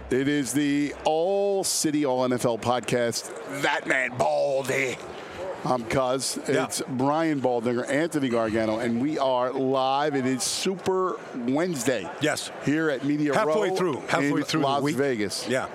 It is the All City All NFL podcast. That man Baldy. I'm Cuz. It's Brian Baldinger, Anthony Gargano, and we are live. It is Super Wednesday. Yes. Here at Media halfway Row through Las the week. Vegas. Yeah.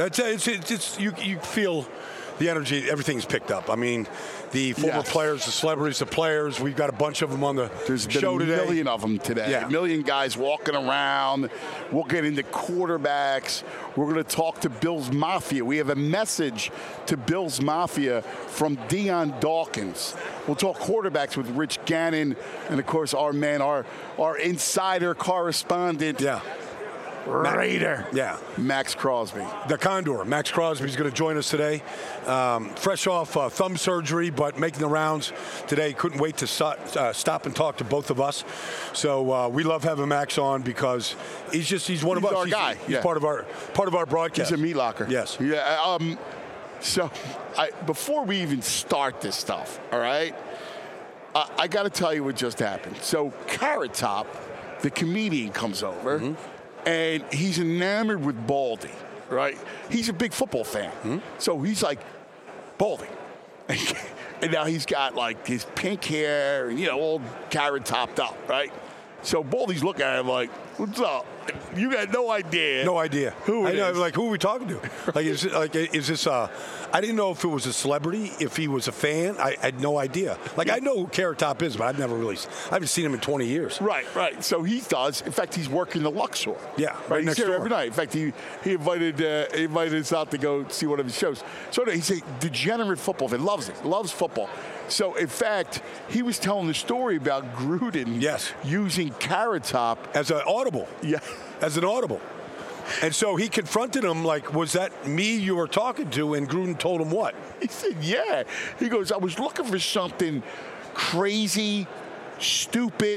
It's you feel the energy, everything's picked up. I mean, the former players, the celebrities, the players, we've got a bunch of them on the show today. There's a million of them today. Yeah. A million guys walking around. We'll get into quarterbacks. We're going to talk to Bills Mafia. We have a message to Bills Mafia from Dion Dawkins. We'll talk quarterbacks with Rich Gannon and, of course, our man, our insider correspondent. Yeah. Raider. Yeah. Max Crosby. The Condor. Max Crosby is going to join us today. Fresh off thumb surgery, but making the rounds today. Couldn't wait to stop and talk to both of us. So we love having Max on because he's one of us. Our guy. He's part of our broadcast. He's a meat locker. Yes. Yeah. So before we even start this stuff, all right, I got to tell you what just happened. So Carrot Top, the comedian, comes over. Mm-hmm. And he's enamored with Baldy, right? He's a big football fan. Mm-hmm. So he's like, Baldy. And now he's got like his pink hair and, all carrot topped up, right? So Baldy's looking at him like, what's up? You got no idea. No idea. Who it is. Like, who are we talking to? Like, is this I didn't know if it was a celebrity, if he was a fan. I had no idea. Like, I know who Carrot Top is, but I haven't seen him in 20 years. Right. So he does. In fact, he's working the Luxor. Yeah, right next he's here door. every night. In fact, he invited us out to go see one of his shows. So he's a degenerate football fan. Loves football. So, in fact, he was telling the story about Gruden using Carrot Top as an audible. Yeah. As an audible. And so he confronted him like, was that me you were talking to? And Gruden told him what? He said, yeah. He goes, I was looking for something crazy, stupid.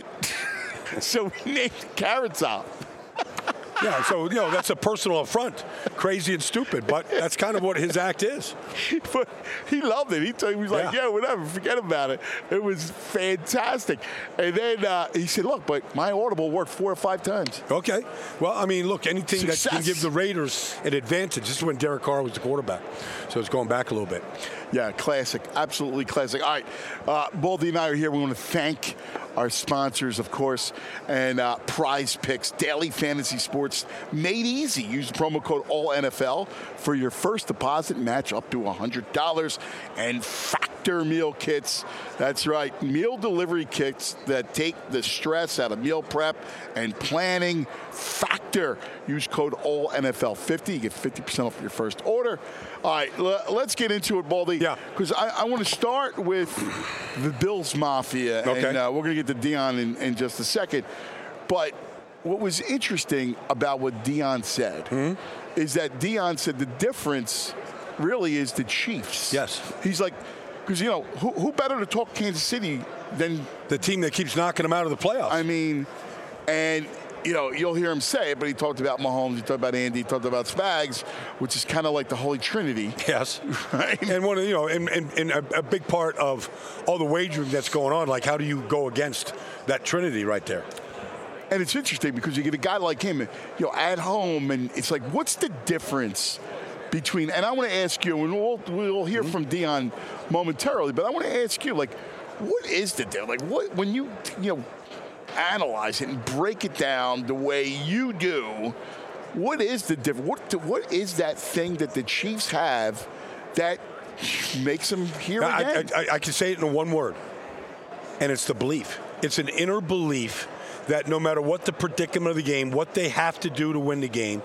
So he named Carrot Top. Yeah, so, that's a personal affront. Crazy and stupid, but that's kind of what his act is. But he loved it. He was like, yeah, whatever, forget about it. It was fantastic. And then he said, look, but my audible worked 4 or 5 times. Okay. Well, I mean, look, anything Success. that can give the Raiders an advantage. This is when Derek Carr was the quarterback. So it's going back a little bit. Yeah, classic. Absolutely classic. All right, Baldy and I are here. We want to thank our sponsors, of course, and Prize Picks, daily fantasy sports made easy. Use the promo code ALLNFL for your first deposit match up to $100. And Factor meal kits. That's right, meal delivery kits that take the stress out of meal prep and planning. Factor. Use code ALLNFL50. You get 50% off your first order. All right, let's get into it, Baldy. Yeah. Because I want to start with the Bills Mafia. Okay. And we're going to get to Dion in just a second. But what was interesting about what Dion said is that Dion said the difference really is the Chiefs. Yes. He's like, because, who better to talk Kansas City than the team that keeps knocking them out of the playoffs? I mean, and you'll hear him say it, but he talked about Mahomes, he talked about Andy, he talked about Spags, which is kind of like the Holy Trinity. Yes. Right? And one of and a big part of all the wagering that's going on, like how do you go against that Trinity right there? And it's interesting because you get a guy like him, at home, and it's like, what's the difference between? And I want to ask you, and we'll hear from Dion momentarily, but I want to ask you, like, what is the difference? Like, what when you analyze it and break it down the way you do, what is the difference? What is that thing that the Chiefs have that makes them here again? I can say it in one word, and it's the belief. It's an inner belief that no matter what the predicament of the game, what they have to do to win the game,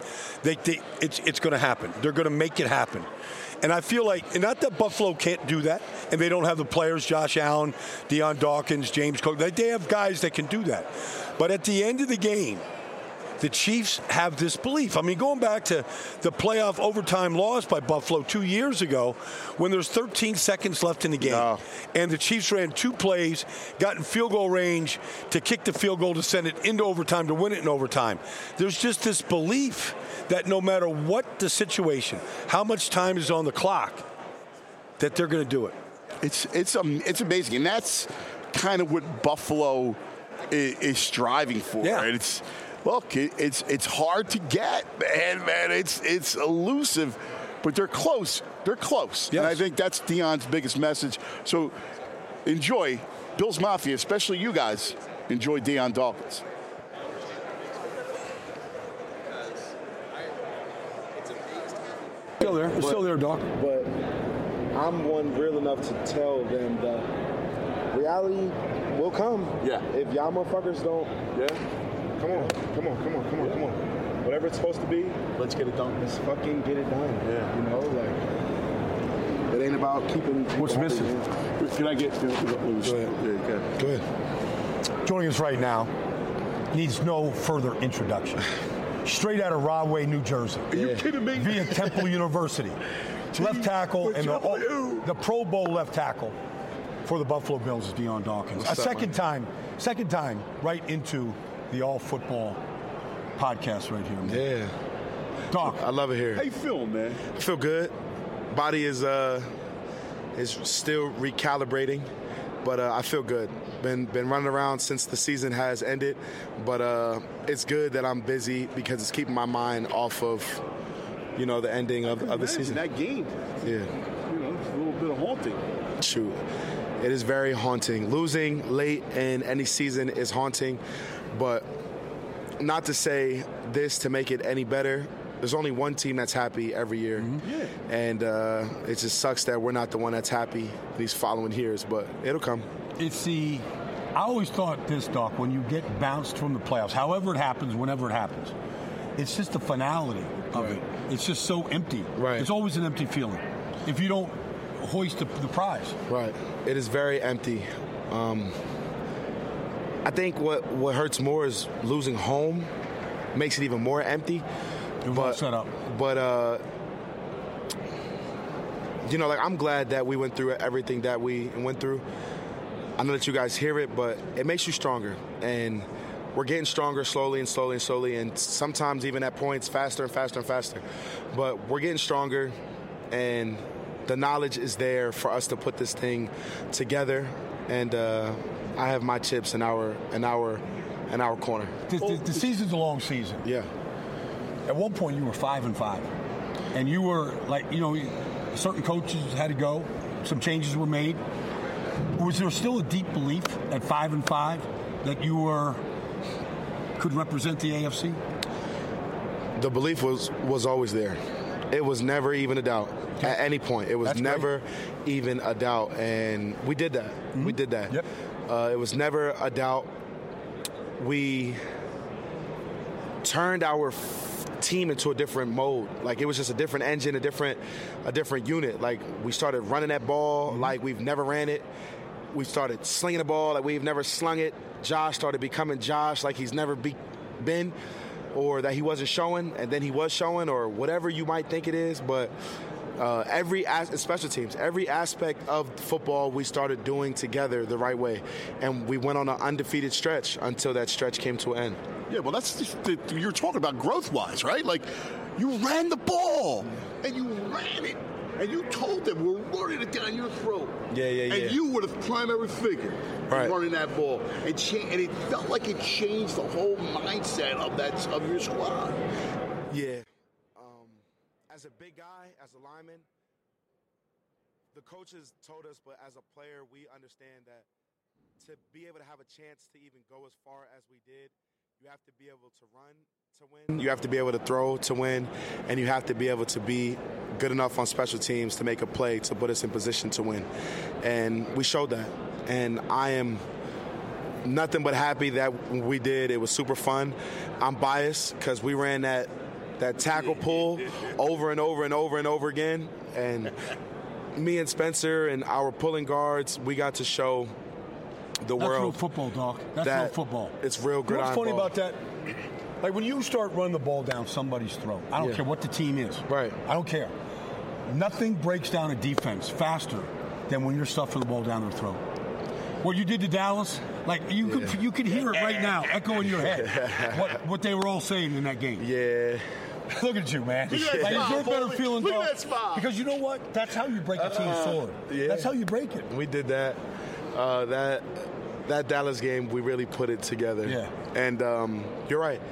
it's going to happen. They're going to make it happen. And I feel like, and not that Buffalo can't do that, and they don't have the players, Josh Allen, Dion Dawkins, James Cook. They have guys that can do that. But at the end of the game, the Chiefs have this belief. I mean, going back to the playoff overtime loss by Buffalo 2 years ago, when there's 13 seconds left in the game, and the Chiefs ran 2 plays, got in field goal range to kick the field goal to send it into overtime, to win it in overtime. There's just this belief that no matter what the situation, how much time is on the clock, that they're going to do it. It's amazing, and that's kind of what Buffalo is striving for. Yeah. Right? It's look, it's hard to get, man. It's elusive, but they're close. They're close. Yes. And I think that's Deion's biggest message. So enjoy Bills Mafia, especially you guys. Enjoy Deion Dawkins. Still there. It's still there, Doc. But I'm one real enough to tell them that reality will come. Yeah. If y'all motherfuckers don't. Yeah. Come on. Whatever it's supposed to be. Let's get it done. Let's fucking get it done. Yeah. You know, like, it ain't about keeping. What's missing? Can I get? Go ahead. Joining us right now needs no further introduction. Straight out of Rahway, New Jersey. Are you kidding me? Via Temple University. Left tackle and the Pro Bowl left tackle for the Buffalo Bills is Deion Dawkins. Second time right into the All Football podcast right here, man. Yeah. Doc. I love it here. How you feeling, man? I feel good. Body is still recalibrating, but I feel good. Been running around since the season has ended, but it's good that I'm busy because it's keeping my mind off of, the ending of the season. That game. Yeah. It's a little bit of haunting. Shoot. It is very haunting. Losing late in any season is haunting, but not to say this to make it any better. There's only one team that's happy every year, and it just sucks that we're not the one that's happy these following years, but it'll come. I always thought this, Doc, when you get bounced from the playoffs, however it happens, whenever it happens, it's just the finality of it. It's just so empty. Right. It's always an empty feeling if you don't hoist the prize. Right. It is very empty. I think what hurts more is losing home makes it even more empty. Well set up. But I'm glad that we went through everything that we went through. I know that you guys hear it, but it makes you stronger. And we're getting stronger slowly, and sometimes even at points faster and faster and faster. But we're getting stronger, and the knowledge is there for us to put this thing together. And I have my chips in our corner. The season's a long season. Yeah. At one point, you were 5-5, and you were certain coaches had to go. Some changes were made. Was there still a deep belief at 5-5 that you could represent the AFC? The belief was always there. It was never even a doubt at any point. It was never even a doubt, and we did that. Mm-hmm. We did that. Yep. It was never a doubt. We turned our team into a different mode. Like, it was just a different engine, a different unit. Like, we started running that ball like we've never ran it. We started slinging the ball like we've never slung it. Josh started becoming Josh like he's never been, or that he wasn't showing and then he was showing, or whatever you might think it is. But special teams, every aspect of football we started doing together the right way. And we went on an undefeated stretch until that stretch came to an end. Yeah, well, that's just you're talking about growth-wise, right? Like, you ran the ball, and you ran it, and you told them we're running it down your throat. Yeah. And you were the primary figure running that ball, and it felt like it changed the whole mindset of your squad. Yeah. As a big guy, as a lineman, the coaches told us, but as a player, we understand that to be able to have a chance to even go as far as we did, you have to be able to run to win. You have to be able to throw to win, and you have to be able to be good enough on special teams to make a play to put us in position to win. And we showed that. And I am nothing but happy that we did. It was super fun. I'm biased because we ran that tackle pull over and over and over and over again. And me and Spencer and our pulling guards, we got to show the world. That's real football, Doc. That's real football. It's real gridiron What's funny ball. about that? Like, when you start running the ball down somebody's throat, I don't care what the team is. Right. I don't care. Nothing breaks down a defense faster than when you're stuffing the ball down their throat. What you did to Dallas, like, you could hear it right now, echo in your head, what they were all saying in that game. Yeah. Look at you, man. Like, is there a better feeling? Look at that smile. Because you know what? That's how you break a team's sword. Yeah. That's how you break it. We did that. That Dallas game, we really put it together. Yeah. And you're right.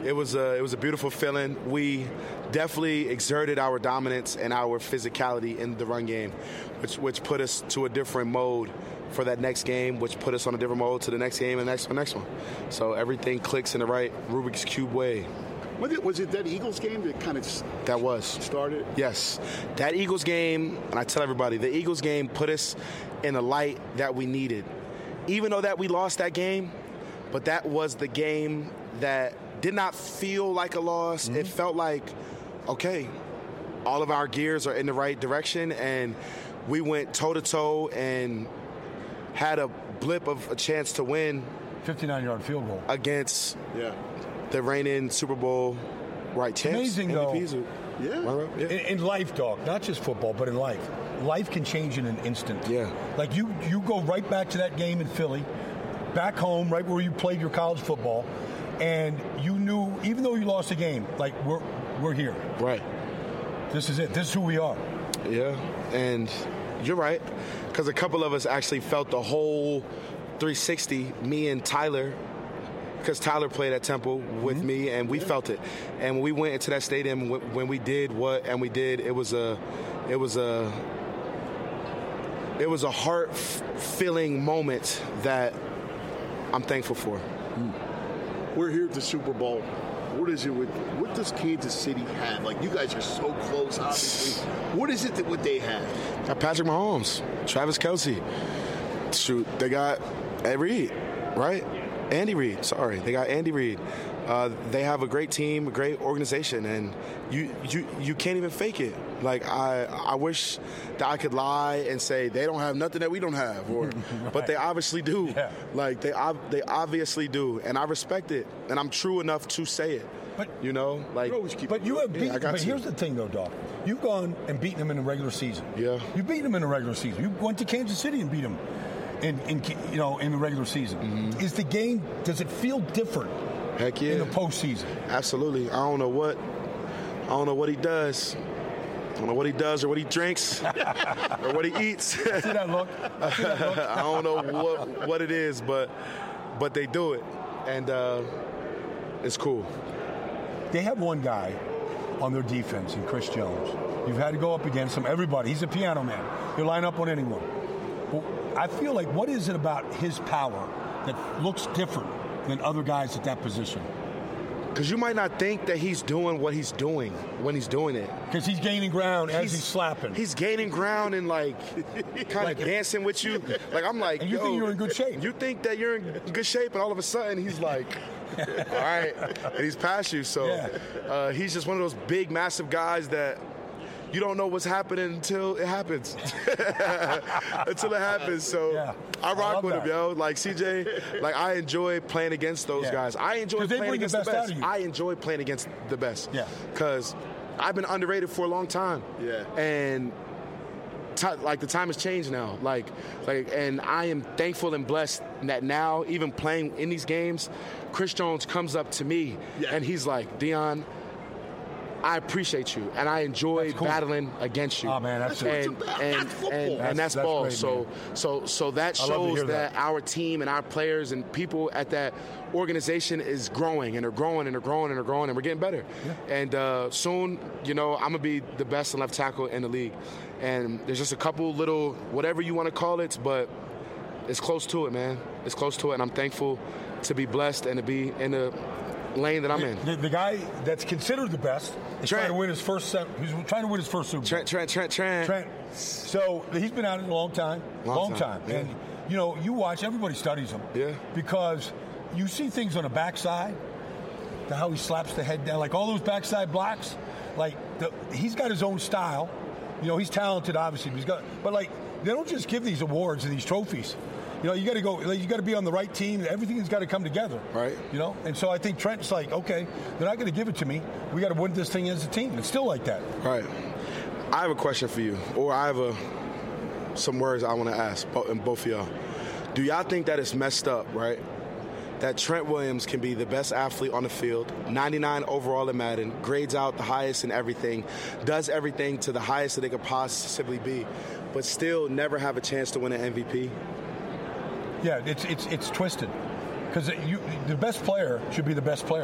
It was a beautiful feeling. We definitely exerted our dominance and our physicality in the run game, which put us to a different mode for that next game, which put us on a different mode to the next game and the next one. So everything clicks in the right Rubik's Cube way. Was it that Eagles game that kind of started? Yes. That Eagles game, and I tell everybody, the Eagles game put us in a light that we needed. Even though that we lost that game, but that was the game that did not feel like a loss. Mm-hmm. It felt like, okay, all of our gears are in the right direction, and we went toe-to-toe and had a blip of a chance to win. 59-yard field goal. Against the reigning Super Bowl champs. Amazing, MVPs. though. In life, dog, not just football, but in life. Life can change in an instant. Yeah. Like you go right back to that game in Philly, back home, right where you played your college football, and you knew, even though you lost the game, like, we're here. Right. This is it. This is who we are. Yeah, and you're right, because a couple of us actually felt the whole 360, me and Tyler, because Tyler played at Temple with me, and we felt it. And when we went into that stadium, when we did we did, it was a heart-filling moment that I'm thankful for. We're here at the Super Bowl. What does Kansas City have? Like, you guys are so close, obviously. What is it what they have? Got Patrick Mahomes, Travis Kelce. Shoot, they got Ed Reed, right? Andy Reid, sorry. They got Andy Reid. They have a great team, a great organization, and you can't even fake it. Like, I wish that I could lie and say they don't have nothing that we don't have, Right. But they obviously do. Yeah. Like, they obviously do, and I respect it, and I'm true enough to say it. But you know, like, but you have beaten. but here's the thing, though, Doc. You've gone and beaten them in the regular season. Yeah. You beat them in the regular season. You went to Kansas City and beat them in the regular season. Mm-hmm. Is the game? Does it feel different? Heck yeah. In the postseason. Absolutely. I don't know what he does. I don't know what he does or what he drinks or what he eats. See that look? I don't know what it is, but they do it, and it's cool. They have one guy on their defense in Chris Jones. You've had to go up against him. Everybody. He's a piano man. He'll line up on anyone. Well, I feel like, what is it about his power that looks different than other guys at that position? Because you might not think that he's doing what he's doing when he's doing it. Because he's gaining ground as he's slapping. He's gaining ground and, like, kind of dancing with you. Like, I'm like, and you think you're in good shape. You think that you're in good shape, and all of a sudden he's like, all right, and he's past you. So he's just one of those big, massive guys that you don't know what's happening until it happens. So I rock with him, yo. Like, CJ, like, I enjoy playing against those guys. I enjoy playing against the best. I enjoy playing against the best. Yeah. Because I've been underrated for a long time. Yeah. And the time has changed now. And I am thankful and blessed that now, even playing in these games, Chris Jones comes up to me and he's like, Dion, I appreciate you, and I enjoy battling against you. Oh man, that's that's ball. Great, so that shows that our team and our players and people at that organization is growing, and they're growing, and they're growing, and they're growing, and we're getting better. Yeah. And soon, I'm gonna be the best left tackle in the league. And there's just a couple little whatever you want to call it, but it's close to it, man. It's close to it, and I'm thankful to be blessed and to be in the lane that I'm in. The guy that's considered the best is trying to win his first. He's trying to win his first Super Bowl. Trent. So he's been at it a long time. Long time. Yeah. And you watch. Everybody studies him. Yeah. Because you see things on the backside, how he slaps the head down, like all those backside blocks. Like he's got his own style. He's talented, obviously. But they don't just give these awards and these trophies. You got to go. You got to be on the right team. Everything's got to come together. Right. And so I think Trent's like, okay, they're not going to give it to me. We got to win this thing as a team. It's still like that. Right. I have a question for you, or I have some words I want to ask both of y'all. Do y'all think that it's messed up, right? That Trent Williams can be the best athlete on the field, 99 overall in Madden, grades out the highest in everything, does everything to the highest that they could possibly be, but still never have a chance to win an MVP? Yeah, it's twisted, because the best player should be the best player.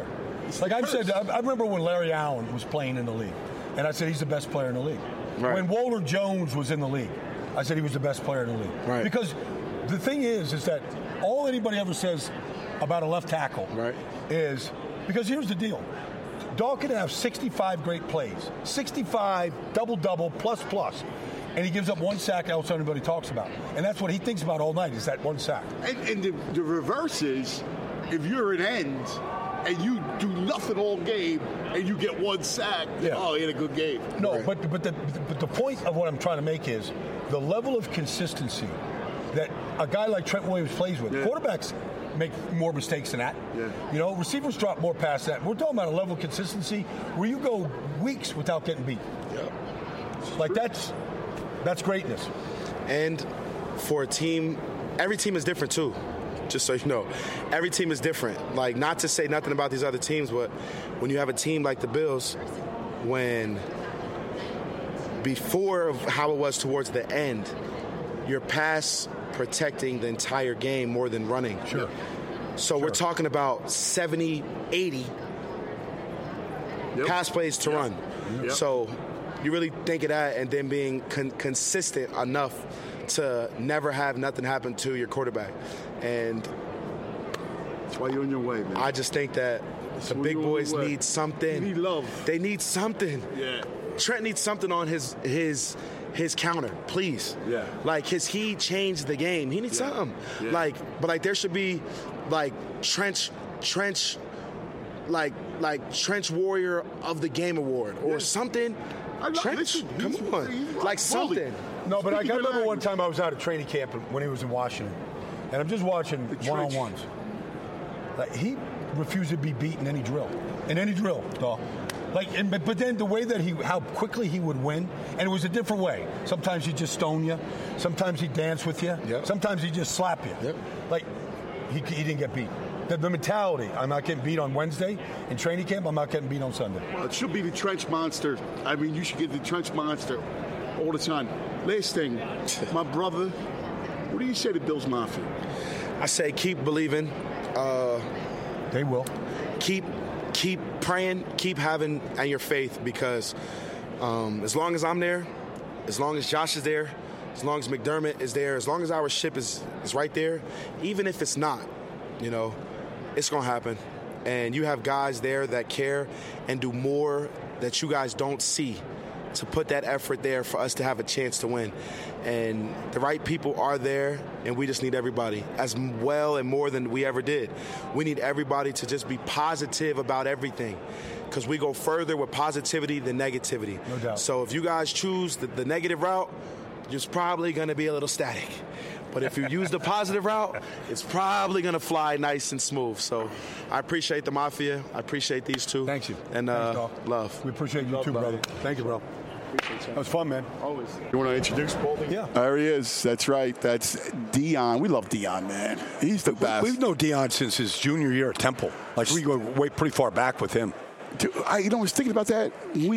Like I've said, I remember when Larry Allen was playing in the league, and I said he's the best player in the league. Right. When Walter Jones was in the league, I said he was the best player in the league. Right. Because the thing is that all anybody ever says about a left tackle is, because here's the deal. Dog can have 65 great plays, 65 double-double plus, and he gives up one sack else everybody talks about. And that's what he thinks about all night is that one sack. And the reverse is, if you're an end and you do nothing all game and you get one sack, oh, he had a good game. No, right. but the point of what I'm trying to make is the level of consistency that a guy like Trent Williams plays with. Quarterbacks make more mistakes than that. You know, receivers drop more past that. We're talking about a level of consistency where you go weeks without getting beat. Like that's greatness. And for a team, every team is different too. Just so you know, every team is different. Like, not to say nothing about these other teams, but when you have a team like the Bills, when before how it was towards the end, you're pass protecting the entire game more than running. So we're talking about 70, 80 pass plays to run. So you really think of that, and then being consistent enough to never have nothing happen to your quarterback. And that's why you're on your way, man. I just think that the big boys need something. They need love. They need something. Trent needs something on his counter, please. Like, he changed the game. He needs something. But there should be like trench warrior of the game award or something. Trench, come on, like something. No, but I remember one time I was out at training camp when he was in Washington, and I'm just watching one-on-ones. Like, he refused to be beat in any drill, dog. Like, but then the way that how quickly he would win, and it was a different way. Sometimes he'd just stone you. Sometimes he'd dance with you. Sometimes he'd just slap you. Like, he didn't get beat. The mentality, I'm not getting beat on Wednesday. In training camp, I'm not getting beat on Sunday. Well, it should be the trench monster. I mean, you should get the trench monster all the time. Last thing, my brother, what do you say to Bills Mafia? I say keep believing. They will. Keep praying, keep having your faith, because as long as I'm there, as long as Josh is there, as long as McDermott is there, as long as our ship is right there, even if it's not, you know, it's going to happen. And you have guys there that care and do more that you guys don't see to put that effort there for us to have a chance to win. And the right people are there, and we just need everybody as well and more than we ever did. We need everybody to just be positive about everything, because we go further with positivity than negativity. No doubt. So if you guys choose the negative route, it's probably going to be a little static. But if you use the positive route, it's probably going to fly nice and smooth. So I appreciate the Mafia. I appreciate these two. Thank you. And love. We appreciate you too, brother. Thank you, bro. That was fun, man. Always. You want to introduce Baldy? Yeah. There he is. That's right. That's Dion. We love Dion, man. He's the best. We've known Dion since his junior year at Temple. Like, we go pretty far back with him. I was thinking about that.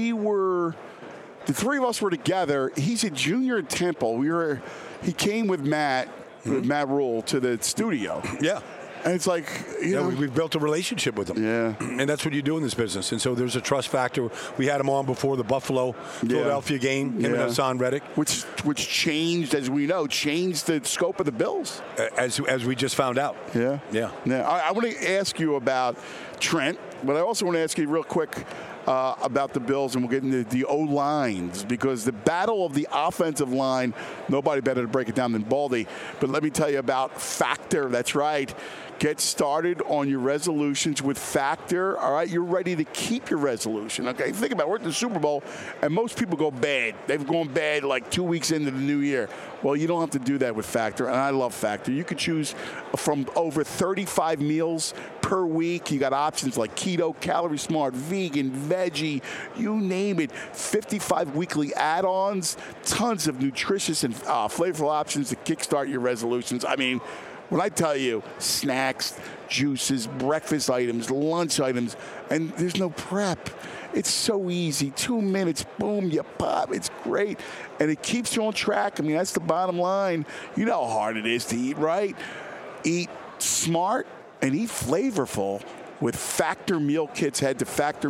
The three of us were together. He's a junior at Temple. He came with Matt Rule to the studio. Yeah. And it's like, you know, we've built a relationship with him. Yeah. And that's what you do in this business. And so there's a trust factor. We had him on before the Philadelphia game, him and Hassan Reddick. Which changed, as we know, the scope of the Bills. As we just found out. Yeah. Yeah. I want to ask you about Trent, but I also want to ask you real quick about the Bills, and we'll get into the O-lines, because the battle of the offensive line, nobody better to break it down than Baldy. But let me tell you about Factor. That's right. Get started on your resolutions with Factor. All right, you're ready to keep your resolution. Okay, think about it. We're at the Super Bowl, and most people go bad. They've gone bad like 2 weeks into the new year. Well, you don't have to do that with Factor, and I love Factor. You could choose from over 35 meals per week. You got options like keto, calorie smart, vegan, veggie, you name it. 55 weekly add-ons, tons of nutritious and flavorful options to kickstart your resolutions. I mean, when I tell you snacks, juices, breakfast items, lunch items, and there's no prep. It's so easy. 2 minutes, boom, you pop. It's great. And it keeps you on track. I mean, that's the bottom line. You know how hard it is to eat right. Eat smart and eat flavorful. with Factor Meal Kits. Head to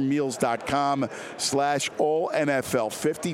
factormeals.com/allNFL50.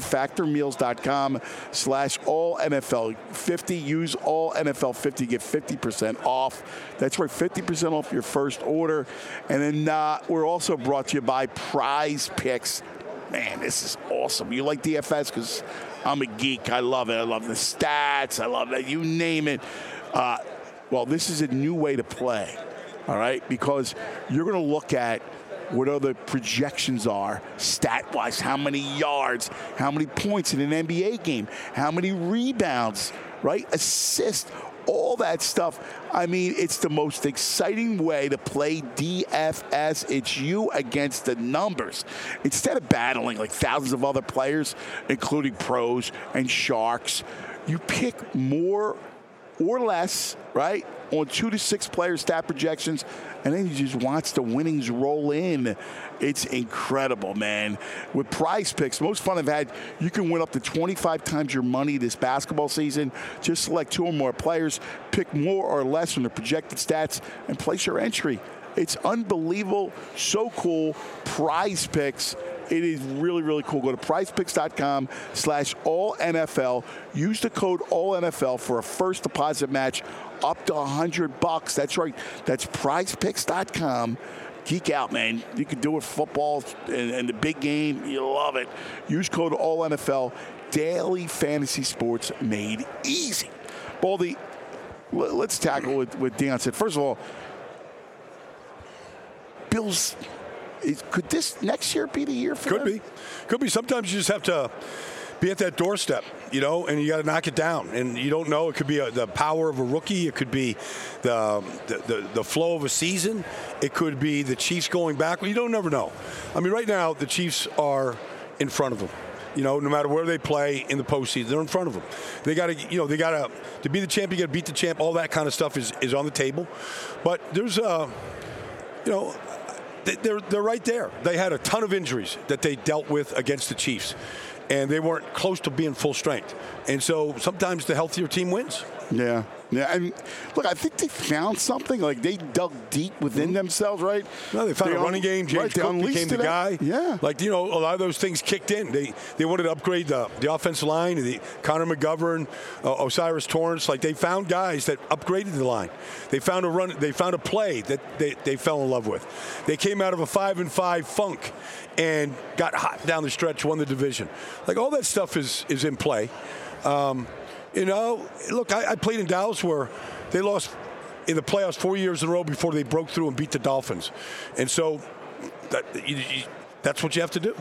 Factormeals.com/allNFL50. Use allNFL50. Get 50% off. That's right, 50% off your first order. And then we're also brought to you by Prize Picks. Man, this is awesome. You like DFS? Because I'm a geek. I love it. I love the stats. I love it. You name it. Well, this is a new way to play, all right? Because you're going to look at what other projections are stat-wise, how many yards, how many points in an NBA game, how many rebounds, right? Assists, all that stuff. I mean, it's the most exciting way to play DFS. It's you against the numbers. Instead of battling like thousands of other players, including pros and sharks, you pick more or less, right, on 2 to 6 player stat projections, and then you just watch the winnings roll in. It's incredible, man. With Prize Picks, most fun I've had, you can win up to 25 times your money this basketball season. Just select 2 or more players, pick more or less from the projected stats, and place your entry. It's unbelievable, so cool. Prize Picks. It is really, really cool. Go to prizepicks.com/allNFL. Use the code ALLNFL for a first deposit match up to $100. That's right. That's prizepicks.com. Geek out, man. You can do it football and the big game. You love it. Use code ALLNFL. Daily fantasy sports made easy. Baldy, let's tackle what Deion said. First of all, Bills... Could this next year be the year for them? Could be. Sometimes you just have to be at that doorstep, and you got to knock it down. And you don't know. It could be the power of a rookie. It could be the flow of a season. It could be the Chiefs going back. You don't never know. I mean, right now the Chiefs are in front of them. No matter where they play in the postseason, they're in front of them. They got to, to be the champ. You got to beat the champ. All that kind of stuff is on the table. But there's, They're right there. They had a ton of injuries that they dealt with against the Chiefs, and they weren't close to being full strength. And so sometimes the healthier team wins. Yeah. And look, I think they found something. Like, they dug deep within themselves, right? No, they found a running game. James Cook became the guy. Yeah. Like, a lot of those things kicked in. They wanted to upgrade the offensive line. Connor McGovern, Osiris Torrance. Like, they found guys that upgraded the line. They found a run. They found a play that they fell in love with. They came out of a 5-5 funk and got hot down the stretch, won the division. Like, all that stuff is in play. Look, I played in Dallas where they lost in the playoffs 4 years in a row before they broke through and beat the Dolphins. And so that's what you have to do.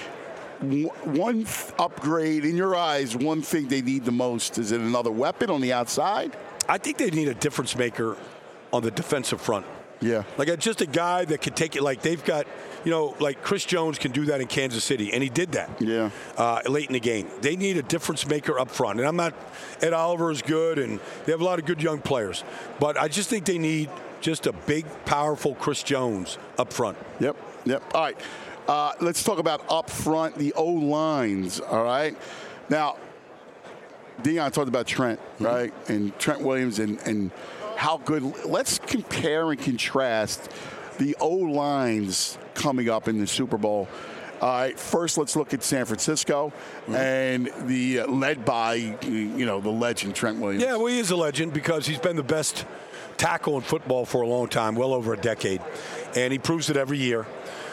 One upgrade, in your eyes, one thing they need the most, is it another weapon on the outside? I think they need a difference maker on the defensive front. Yeah. Like, just a guy that could take it. Like, they've got, like Chris Jones can do that in Kansas City, and he did that late in the game. They need a difference maker up front. And Ed Oliver is good, and they have a lot of good young players. But I just think they need just a big, powerful Chris Jones up front. Yep. All right. Let's talk about up front, the O-lines, all right? Now, Deion talked about Trent, right? And Trent Williams and how good. Let's compare and contrast the O-lines coming up in the Super Bowl. All right, first let's look at San Francisco and the led by, the legend Trent Williams. Yeah, well, he is a legend because he's been the best tackle in football for a long time, well over a decade. And he proves it every year.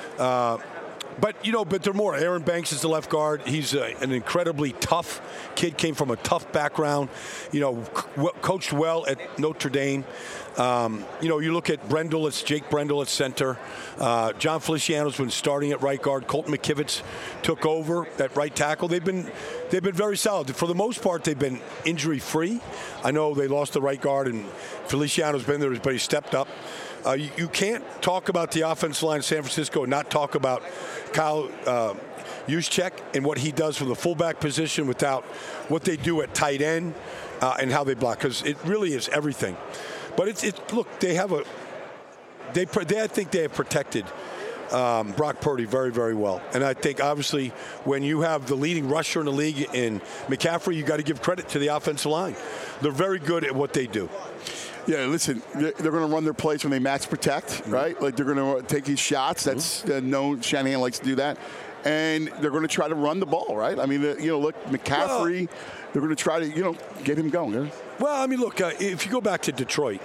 But there are more. Aaron Banks is the left guard. He's an incredibly tough kid, came from a tough background, coached well at Notre Dame. You look at Jake Brendel at center. John Feliciano's been starting at right guard. Colton McKivitz took over at right tackle. They've been very solid. For the most part, they've been injury-free. I know they lost the right guard, and Feliciano's been there, but he stepped up. You can't talk about the offensive line in San Francisco and not talk about Kyle Juszczyk and what he does from the fullback position without what they do at tight end and how they block, because it really is everything. But look, I think they have protected Brock Purdy very, very well. And I think, obviously, when you have the leading rusher in the league in McCaffrey, you got to give credit to the offensive line. They're very good at what they do. Yeah, listen, they're going to run their plays when they max protect, right? Like, they're going to take his shots. That's known. Shanahan likes to do that. And they're going to try to run the ball, right? I mean, look, McCaffrey, they're going to try to, get him going. Yeah? Well, I mean, look, if you go back to Detroit,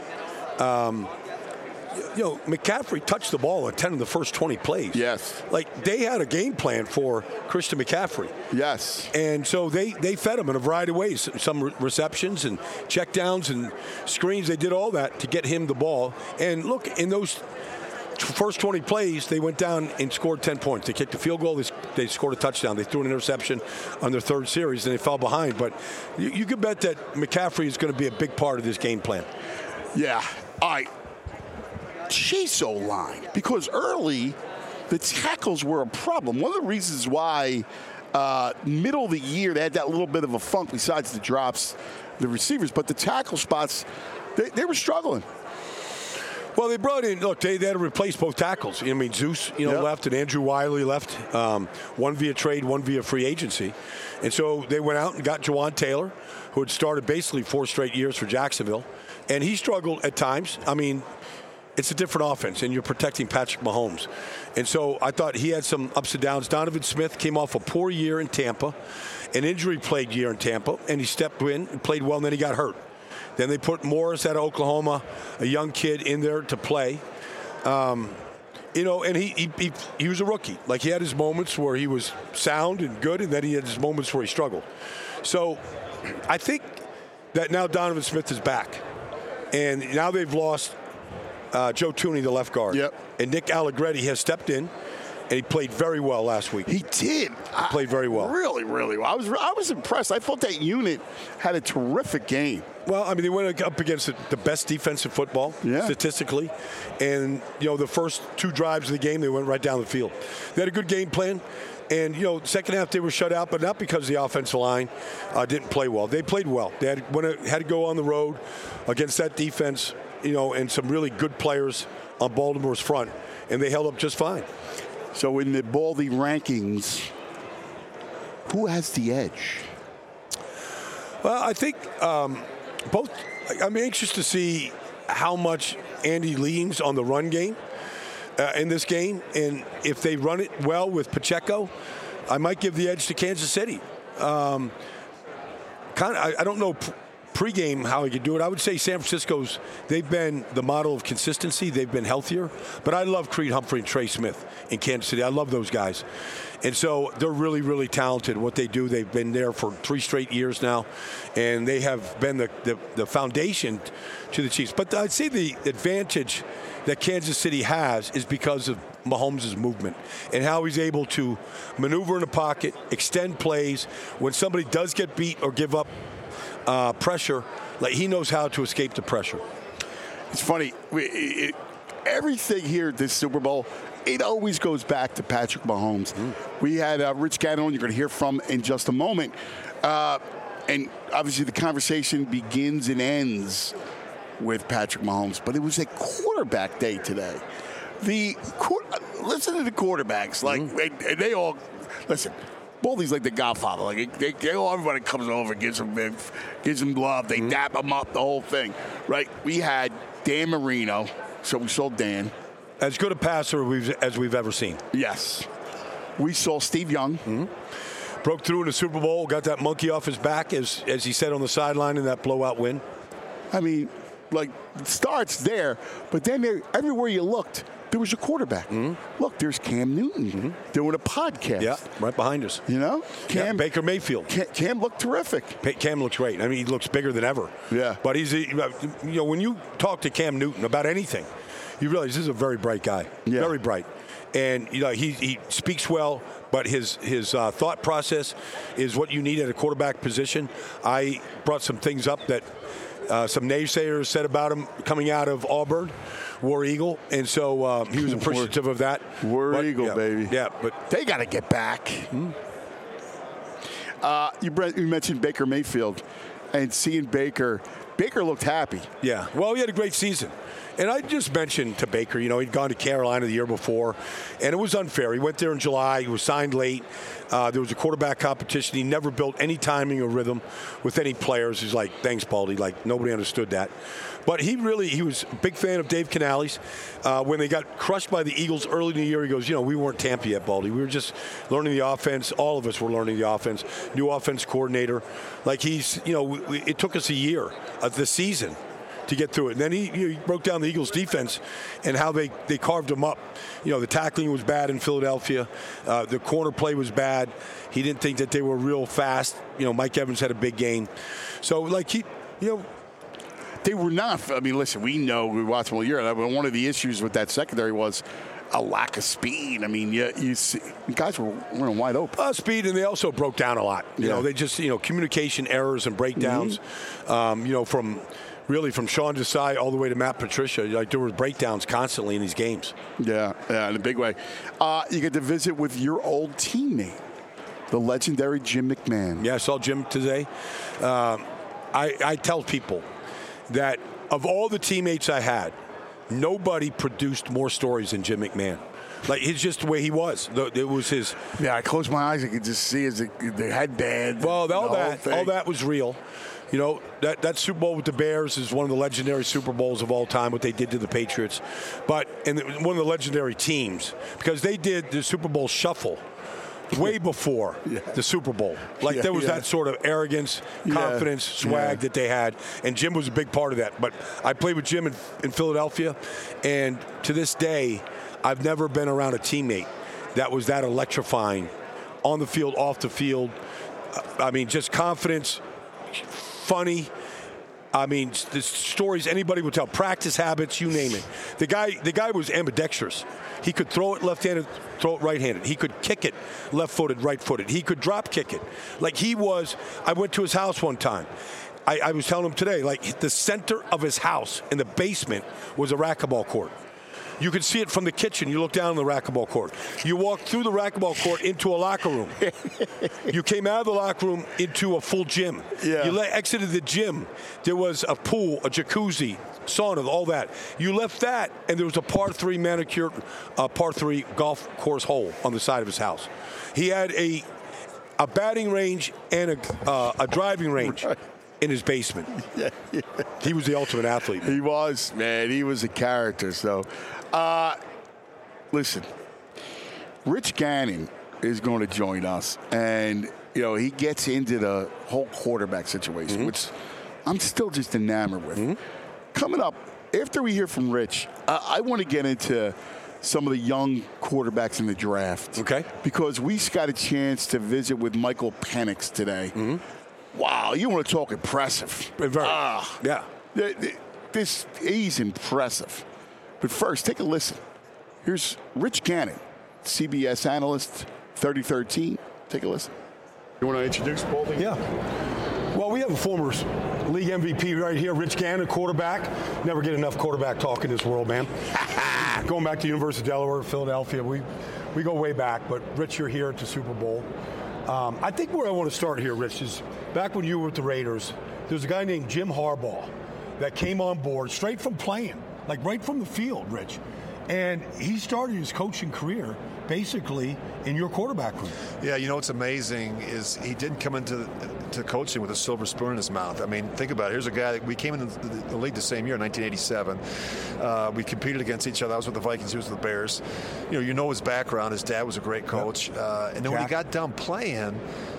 McCaffrey touched the ball at 10 of the first 20 plays. Yes. Like, they had a game plan for Christian McCaffrey. Yes. And so they fed him in a variety of ways. Some receptions and checkdowns and screens. They did all that to get him the ball. And look, in those first 20 plays, they went down and scored 10 points. They kicked a field goal. They scored a touchdown. They threw an interception on their third series, and they fell behind. But you can bet that McCaffrey is going to be a big part of this game plan. Yeah. All right. Chase O-line, because early the tackles were a problem. One of the reasons why middle of the year they had that little bit of a funk besides the drops, the receivers, but the tackle spots, they were struggling. Well, they brought in, look, they had to replace both tackles. I mean, Zeus, left, and Andrew Wiley left, one via trade, one via free agency. And so they went out and got Jawan Taylor, who had started basically 4 straight years for Jacksonville. And he struggled at times. I mean, it's a different offense, and you're protecting Patrick Mahomes. And so I thought he had some ups and downs. Donovan Smith came off a poor year in Tampa, an injury-plagued year in Tampa, and he stepped in and played well, and then he got hurt. Then they put Morris out of Oklahoma, a young kid, in there to play. And he was a rookie. Like, he had his moments where he was sound and good, and then he had his moments where he struggled. So I think that now Donovan Smith is back. And now they've lost Joe Thuney, the left guard. Yep. And Nick Allegretti has stepped in, and he played very well last week. He did. He played very well. Really, really well. I was impressed. I thought that unit had a terrific game. Well, I mean, they went up against the best defensive football statistically. And, the first 2 drives of the game, they went right down the field. They had a good game plan. And, second half they were shut out, but not because the offensive line didn't play well. They played well. They had to go on the road against that defense, and some really good players on Baltimore's front, and they held up just fine. So in the Baldy rankings, who has the edge? Well, I think both. I'm anxious to see how much Andy leans on the run game in this game, and if they run it well with Pacheco, I might give the edge to Kansas City. I don't know pregame how he could do it. I would say San Francisco's, they've been the model of consistency. They've been healthier. But I love Creed Humphrey and Trey Smith in Kansas City. I love those guys. And so they're really, really talented. What they do, they've been there for 3 straight years now. And they have been the foundation to the Chiefs. But I'd say the advantage that Kansas City has is because of Mahomes' movement and how he's able to maneuver in the pocket, extend plays. When somebody does get beat or give up pressure, like, he knows how to escape the pressure. It's funny. Everything here at this Super Bowl, it always goes back to Patrick Mahomes. We had Rich Gannon, you're going to hear from in just a moment. And obviously the conversation begins and ends with Patrick Mahomes. But it was a quarterback day today. Listen to the quarterbacks. And they all, listen, Baldy's like the Godfather. Like, everybody comes over, gives him love. They dap him up, the whole thing, right? We had Dan Marino, so we saw Dan. As good a passer as we've ever seen. Yes. We saw Steve Young. Broke through in the Super Bowl, got that monkey off his back, as he said on the sideline in that blowout win. I mean, it starts there, but then everywhere you looked, there was a quarterback. Look, there's Cam Newton doing a podcast. Yeah, right behind us. Cam, Baker Mayfield. Cam looked terrific. Cam looks great. I mean, he looks bigger than ever. Yeah. But he's, when you talk to Cam Newton about anything, you realize this is a very bright guy. Yeah. Very bright. And, he speaks well, but his thought process is what you need at a quarterback position. I brought some things up that some naysayers said about him coming out of Auburn, War Eagle, and so he was appreciative of that. War Eagle, baby. Yeah, but they got to get back. You mentioned Baker Mayfield, and seeing Baker looked happy. Yeah, well, he had a great season. And I just mentioned to Baker, he'd gone to Carolina the year before, and it was unfair. He went there in July. He was signed late. There was a quarterback competition. He never built any timing or rhythm with any players. He's like, thanks, Baldy. Like, nobody understood that. But he was a big fan of Dave Canales. When they got crushed by the Eagles early in the year, he goes, we weren't Tampa yet, Baldy. We were just learning the offense. All of us were learning the offense. New offense coordinator. Like it took us a year of the season to get through it. And then he broke down the Eagles' defense and how they carved them up. The tackling was bad in Philadelphia. The corner play was bad. He didn't think that they were real fast. Mike Evans had a big game. So, they were not. I mean, listen, we watched them all year. One of the issues with that secondary was a lack of speed. I mean, you see, guys were running wide open. Speed, and they also broke down a lot. They just, communication errors and breakdowns, from Sean Desai all the way to Matt Patricia. Like, there were breakdowns constantly in these games. Yeah, in a big way. You get to visit with your old teammate, the legendary Jim McMahon. Yeah, I saw Jim today. I tell people that of all the teammates I had, nobody produced more stories than Jim McMahon. Like, it's just the way he was. It was his. Yeah, I closed my eyes. I could just see the headband. Well, all that was real. That Super Bowl with the Bears is one of the legendary Super Bowls of all time, what they did to the Patriots. And one of the legendary teams, because they did the Super Bowl shuffle way before the Super Bowl. Like, there was that sort of arrogance, confidence, swag that they had, and Jim was a big part of that. But I played with Jim in Philadelphia, and to this day, I've never been around a teammate that was that electrifying on the field, off the field. I mean, just confidence, funny. I mean, the stories anybody would tell, practice habits, you name it. The guy was ambidextrous. He could throw it left-handed, throw it right-handed. He could kick it left-footed, right-footed. He could drop kick it. Like, I went to his house one time. I was telling him today, like, the center of his house in the basement was a racquetball court. You could see it from the kitchen. You look down on the racquetball court. You walked through the racquetball court into a locker room. You came out of the locker room into a full gym. Yeah. You exited the gym. There was a pool, a jacuzzi, sauna, all that. You left that, and there was a par 3 manicured, par 3 golf course hole on the side of his house. He had a batting range and a driving range. Right. In his basement. He was the ultimate athlete. He was, man. He was a character. So, listen, Rich Gannon is going to join us. And, he gets into the whole quarterback situation, which I'm still just enamored with. Coming up, after we hear from Rich, I want to get into some of the young quarterbacks in the draft. Okay. Because we got a chance to visit with Michael Penix today. Wow, you want to talk impressive. Yeah. He's impressive. But first, take a listen. Here's Rich Gannon, CBS analyst, 3013. Take a listen. You want to introduce Baldy? Yeah. Well, we have a former league MVP right here, Rich Gannon, quarterback. Never get enough quarterback talk in this world, man. Going back to University of Delaware, Philadelphia, we go way back. But, Rich, you're here at the Super Bowl. I think where I want to start here, Rich, is back when you were with the Raiders, there was a guy named Jim Harbaugh that came on board straight from playing, like right from the field, Rich. And he started his coaching career basically in your quarterback room. Yeah, what's amazing is he didn't come into coaching with a silver spoon in his mouth. I mean, think about it. Here's a guy that we came into the league the same year, 1987. We competed against each other. I was with the Vikings. He was with the Bears. His background. His dad was a great coach. And then when he got done playing,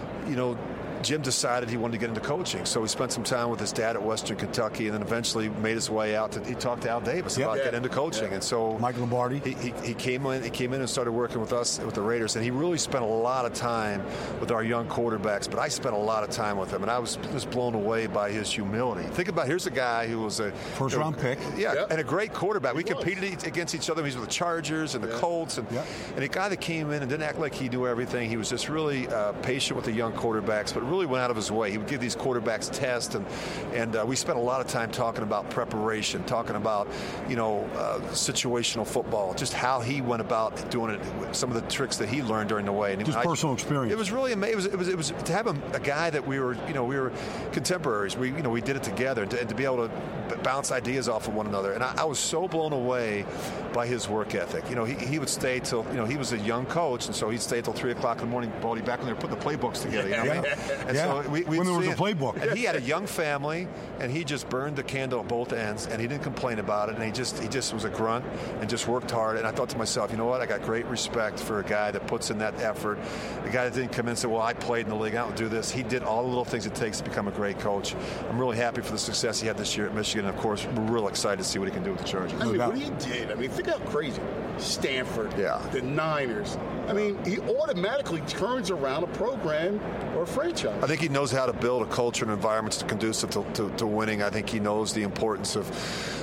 Jim decided he wanted to get into coaching. So he spent some time with his dad at Western Kentucky and then eventually made his way out. He talked to Al Davis about getting into coaching. And so Mike Lombardi. He came in and started working with us, with the Raiders. And he really spent a lot of time with our young quarterbacks. But I spent a lot of time with him. And I was just blown away by his humility. Think about, here's a guy who was a first-round pick. Yeah, and a great quarterback. We competed against each other. He was with the Chargers and the Colts. And a guy that came in and didn't act like he knew everything. He was just really patient with the young quarterbacks, but really went out of his way. He would give these quarterbacks tests, and we spent a lot of time talking about preparation, talking about, situational football, just how he went about doing it, some of the tricks that he learned during the way. And just personal experience. It was really amazing. It was to have a guy that we were contemporaries. We did it together, and to be able to bounce ideas off of one another. And I was so blown away by his work ethic. He would stay till, he was a young coach, and so he'd stay till 3 o'clock in the morning, Baldy, back when they were putting the playbooks together. And so when there was a playbook. And he had a young family, and he just burned the candle at both ends, and he didn't complain about it, and he just was a grunt and just worked hard. And I thought to myself, you know what? I got great respect for a guy that puts in that effort. The guy that didn't come in and say, well, I played in the league, I don't do this. He did all the little things it takes to become a great coach. I'm really happy for the success he had this year at Michigan. And of course, we're real excited to see what he can do with the Chargers. What he did, think how crazy. Stanford, the Niners. He automatically turns around a program or a franchise. I think he knows how to build a culture and environments conducive to winning. I think he knows the importance of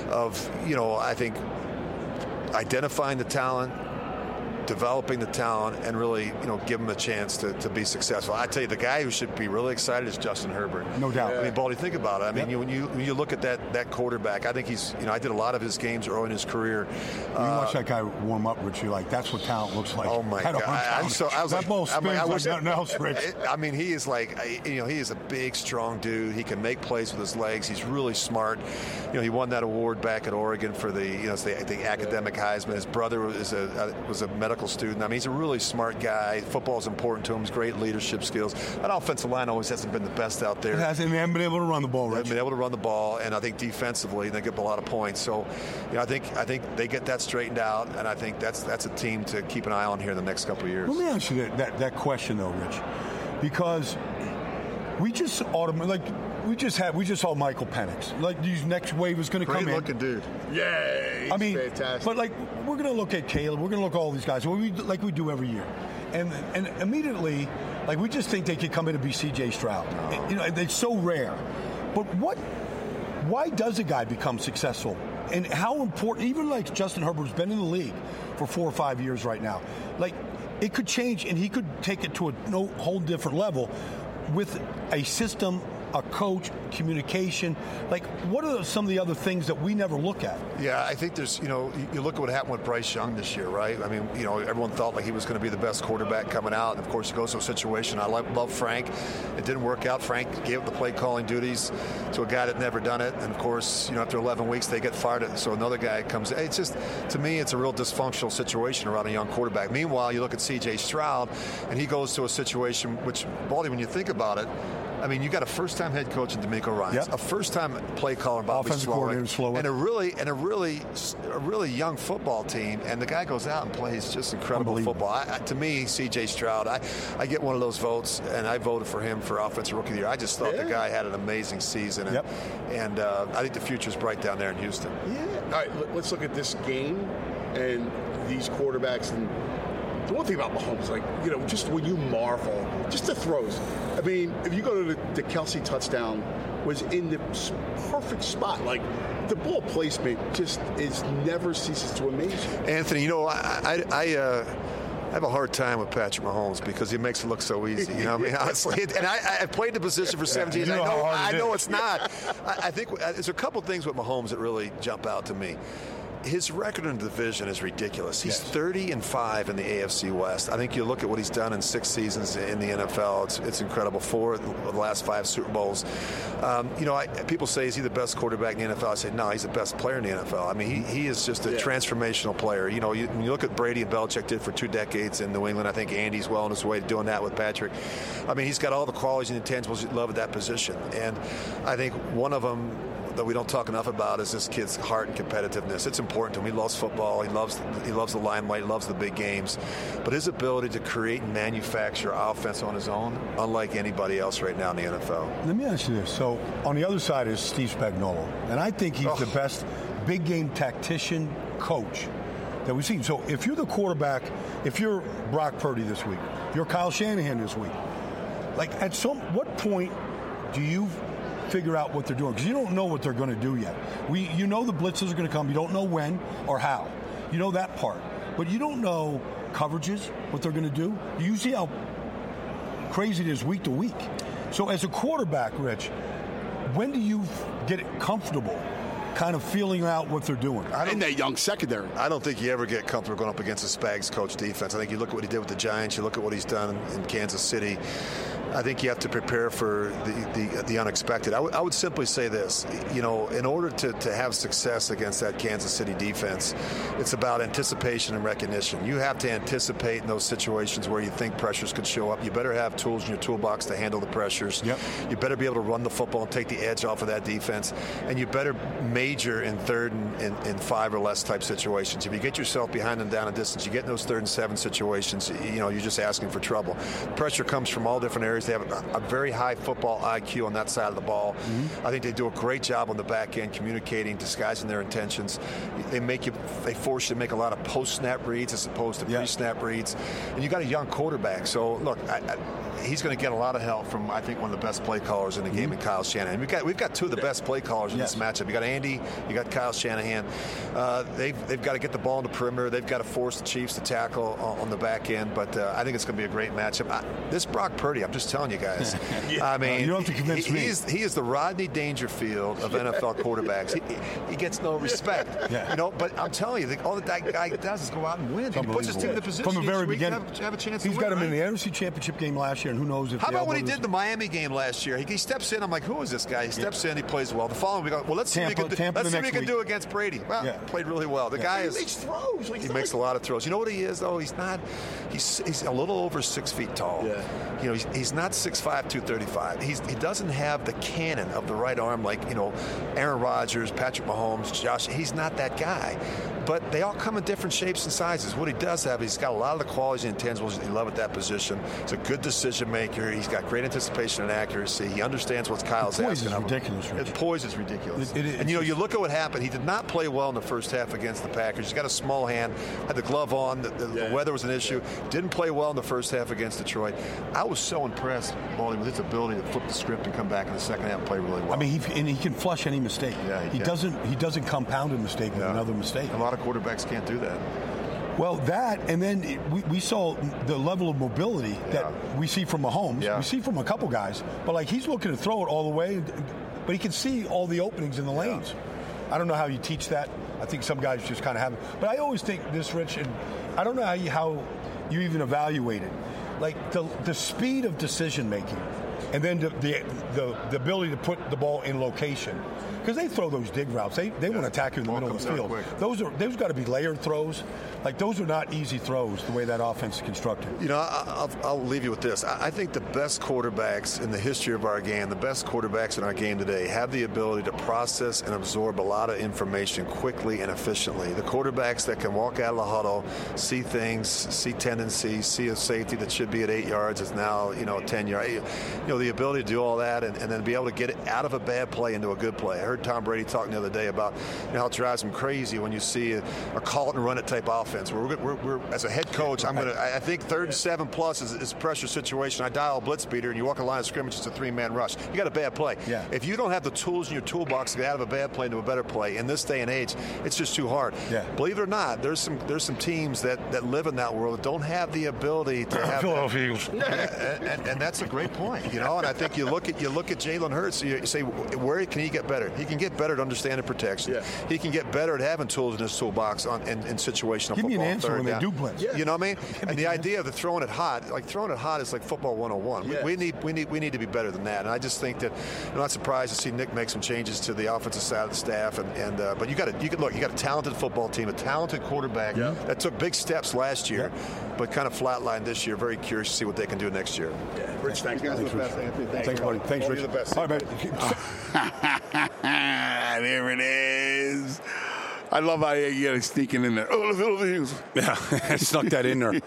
I think identifying the talent, developing the talent, and really, give him a chance to be successful. I tell you, the guy who should be really excited is Justin Herbert. No doubt. Baldy, think about it. When you look at that quarterback, I think he's, I did a lot of his games early in his career. You watch that guy warm up, Rich, that's what talent looks like. Oh my God! I was that ball spins like nothing else, Rich. He is like, he is a big, strong dude. He can make plays with his legs. He's really smart. He won that award back at Oregon for the academic Heisman. His brother was a medical student. He's a really smart guy. Football is important to him. He's great leadership skills. That offensive line always hasn't been the best out there. They haven't been able to run the ball, right? They've been able to run the ball, and I think defensively they give up a lot of points. So, I think they get that straightened out, and I think that's a team to keep an eye on here in the next couple of years. Let me ask you that question though, Rich, because we just saw Michael Penix. These next wave is going to come in. Great looking dude. Yeah, he's fantastic. But we're going to look at Caleb. We're going to look at all these guys, like we do every year, and immediately, we just think they could come in and be C.J. Stroud. No. It's so rare. But why does a guy become successful? And how important? Even Justin Herbert's been in the league for 4 or 5 years right now. It could change, and he could take it to a whole different level with a system, a coach, communication. What are some of the other things that we never look at? Yeah, I think there's, you look at what happened with Bryce Young this year, right? Everyone thought he was going to be the best quarterback coming out. And, of course, he goes to a situation. I love Frank. It didn't work out. Frank gave up the play calling duties to a guy that never done it. And, of course, after 11 weeks, they get fired. So another guy comes in. It's just, to me, it's a real dysfunctional situation around a young quarterback. Meanwhile, you look at C.J. Stroud, and he goes to a situation which, Baldy, when you think about it, you got a first-time head coach in D'Amico Ryans, a first-time play caller, Bobby Slowick, and a really young football team. And the guy goes out and plays just incredible football. To me, C.J. Stroud, I get one of those votes, and I voted for him for Offensive Rookie of the Year. I just thought the guy had an amazing season, and I think the future's bright down there in Houston. Yeah. All right, let's look at this game and these quarterbacks. And the one thing about Mahomes, just when you marvel, just the throws. If you go to the Kelsey touchdown, was in the perfect spot. The ball placement just never ceases to amaze you. Anthony, I have a hard time with Patrick Mahomes because he makes it look so easy. Honestly. And I played the position for 17 years. I know it's not. I think there's a couple things with Mahomes that really jump out to me. His record in the division is ridiculous. He's 30-5 in the AFC West. I think you look at what he's done in 6 seasons in the NFL. It's incredible. 4 of the last 5 Super Bowls. People say, is he the best quarterback in the NFL? I say, no, he's the best player in the NFL. He is just a transformational player. When you look at Brady and Belichick did for 2 decades in New England, I think Andy's well on his way to doing that with Patrick. He's got all the qualities and intangibles you love at that position. And I think one of them that we don't talk enough about is this kid's heart and competitiveness. It's important to him. He loves football. He loves the limelight. He loves the big games. But his ability to create and manufacture offense on his own, unlike anybody else right now in the NFL. Let me ask you this. So on the other side is Steve Spagnuolo. And I think he's the best big game tactician coach that we've seen. So if you're the quarterback, if you're Brock Purdy this week, you're Kyle Shanahan this week, at what point do you figure out what they're doing? Because you don't know what they're going to do yet. You know the blitzes are going to come. You don't know when or how. You know that part. But you don't know coverages, what they're going to do. You see how crazy it is week to week. So as a quarterback, Rich, when do you get comfortable kind of feeling out what they're doing? In that young secondary. I don't think you ever get comfortable going up against a Spags coach defense. I think you look at what he did with the Giants, you look at what he's done in Kansas City. I think you have to prepare for the unexpected. I would simply say this, in order to have success against that Kansas City defense, it's about anticipation and recognition. You have to anticipate in those situations where you think pressures could show up. You better have tools in your toolbox to handle the pressures. Yep. You better be able to run the football and take the edge off of that defense. And you better major in 3rd and 5 or less type situations. If you get yourself behind them down a distance, you get in those 3rd and 7 situations, you're just asking for trouble. Pressure comes from all different areas. They have a very high football IQ on that side of the ball. I think they do a great job on the back end communicating, disguising their intentions. They force you to make a lot of post-snap reads as opposed to pre-snap reads. And you got a young quarterback. So, look, he's going to get a lot of help from, I think, one of the best play callers in the game in Kyle Shanahan. We've got 2 of the best play callers in this matchup. You got Andy, you got Kyle Shanahan. They've got to get the ball in the perimeter. They've got to force the Chiefs to tackle on the back end. But I think it's going to be a great matchup. This Brock Purdy, I'm just telling you guys. I mean, you don't have to convince me. He is the Rodney Dangerfield of NFL quarterbacks. He gets no respect. But I'm telling you, all that guy does is go out and win. He puts his team in the position from the very beginning. Have a chance He's to got win, him in the NFC Championship game last year, and who knows if. How about when he did the Miami game last year? He steps in. I'm like, who is this guy? He steps in. He plays well. The following week, let's see what he can do against Brady. Well, played really well. The guy makes throws. He makes a lot of throws. You know what he is, though? He's a little over 6 feet tall. He's not 6'5", 235. He doesn't have the cannon of the right arm like, Aaron Rodgers, Patrick Mahomes, Josh. He's not that guy. But they all come in different shapes and sizes. What he does have, he's got a lot of the qualities and intangibles you love at that position. He's a good decision maker. He's got great anticipation and accuracy. He understands what Kyle's asking of him. Ridiculous. The poise is ridiculous. And you look at what happened. He did not play well in the first half against the Packers. He's got a small hand, had the glove on. The weather was an issue. Didn't play well in the first half against Detroit. I was so impressed, Baldy, with his ability to flip the script and come back in the second half and play really well. I mean, he can flush any mistake. He doesn't compound a mistake with another mistake. A lot of quarterbacks can't do that. Well, that, and then we saw the level of mobility that we see from Mahomes. We see from a couple guys, but he's looking to throw it all the way, but he can see all the openings in the lanes. I don't know how you teach that. I think some guys just kind of have it. But I always think this, Rich, and I don't know how you even evaluate it. The speed of decision making, and then the ability to put the ball in location. Because they throw those dig routes. They want to attack you in the middle of the field. Those got to be layered throws. Those are not easy throws, the way that offense is constructed. I'll leave you with this. I think the best quarterbacks in the history of our game, the best quarterbacks in our game today, have the ability to process and absorb a lot of information quickly and efficiently. The quarterbacks that can walk out of the huddle, see things, see tendencies, see a safety that should be at 8 yards is now, 10 yards. The ability to do all that and then be able to get it out of a bad play into a good play. I heard Tom Brady talking the other day about how it drives him crazy when you see a call it and run it type offense. We're as a head coach, I think 3rd and 7 plus is a pressure situation. I dial a blitz beater and you walk a line of scrimmage, it's a 3-man rush. You got a bad play. If you don't have the tools in your toolbox to get out of a bad play into a better play in this day and age, it's just too hard. Believe it or not, there's some teams that live in that world that don't have the ability to have Philadelphia Eagles. And that's a great point, And I think you look at Jalen Hurts, you say, where can he get better? He can get better at understanding protection. He can get better at having tools in his toolbox in situational football. Give me an answer when they do blitz. You know what I mean? And the idea of throwing it hot, is like football 101. We need to be better than that. And I just think that I'm not surprised to see Nick make some changes to the offensive side of the staff. But you got a talented football team, a talented quarterback that took big steps last year, but kind of flatlined this year. Very curious to see what they can do next year. Rich, thanks. You guys are the best, Anthony. Thanks, buddy. Thanks, Rich. You're the best. All right, man. There it is. I love how you get sneaking in there. Oh, the Philippines. Yeah, I snuck that in there.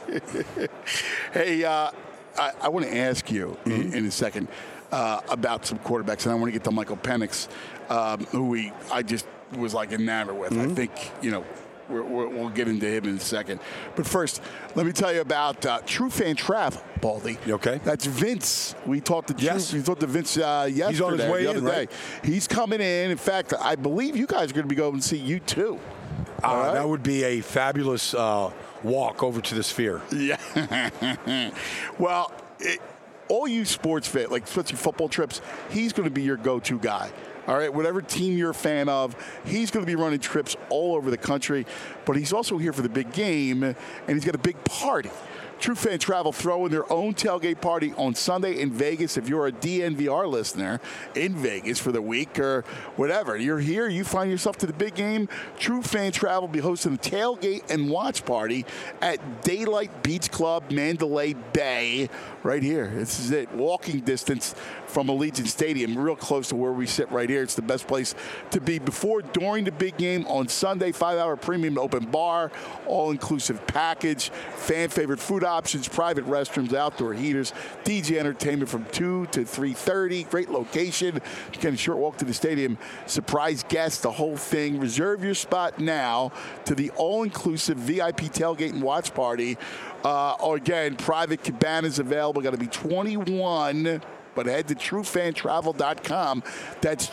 Hey, I want to ask you in a second about some quarterbacks, and I want to get to Michael Penix, who I just was enamored with. I think, we'll get into him in a second. But first, let me tell you about True Fan Travel, Baldy. You okay? That's Vince. We talked to Vince yesterday. He's on his way the other in, day. right? He's coming in. In fact, I believe you guys are going to be going to see you too. Right? That would be a fabulous walk over to the Sphere. Yeah. Well, all you sports fans, like especially football trips, he's going to be your go-to guy. All right, whatever team you're a fan of, he's going to be running trips all over the country. But he's also here for the big game, and he's got a big party. True Fan Travel throwing their own tailgate party on Sunday in Vegas. If you're a DNVR listener in Vegas for the week or whatever, you're here, you find yourself to the big game, True Fan Travel will be hosting a tailgate and watch party at Daylight Beach Club, Mandalay Bay, right here. This is it, walking distance from Allegiant Stadium, real close to where we sit right here. It's the best place to be before, during the big game on Sunday. 5-hour premium open bar, all-inclusive package, fan favorite food options, private restrooms, outdoor heaters, DJ entertainment from 2 to 3:30. Great location. Again, a short walk to the stadium. Surprise guests, the whole thing. Reserve your spot now to the all-inclusive VIP tailgate and watch party. Again, private cabanas available. Got to be 21. But head to TrueFanTravel.com. That's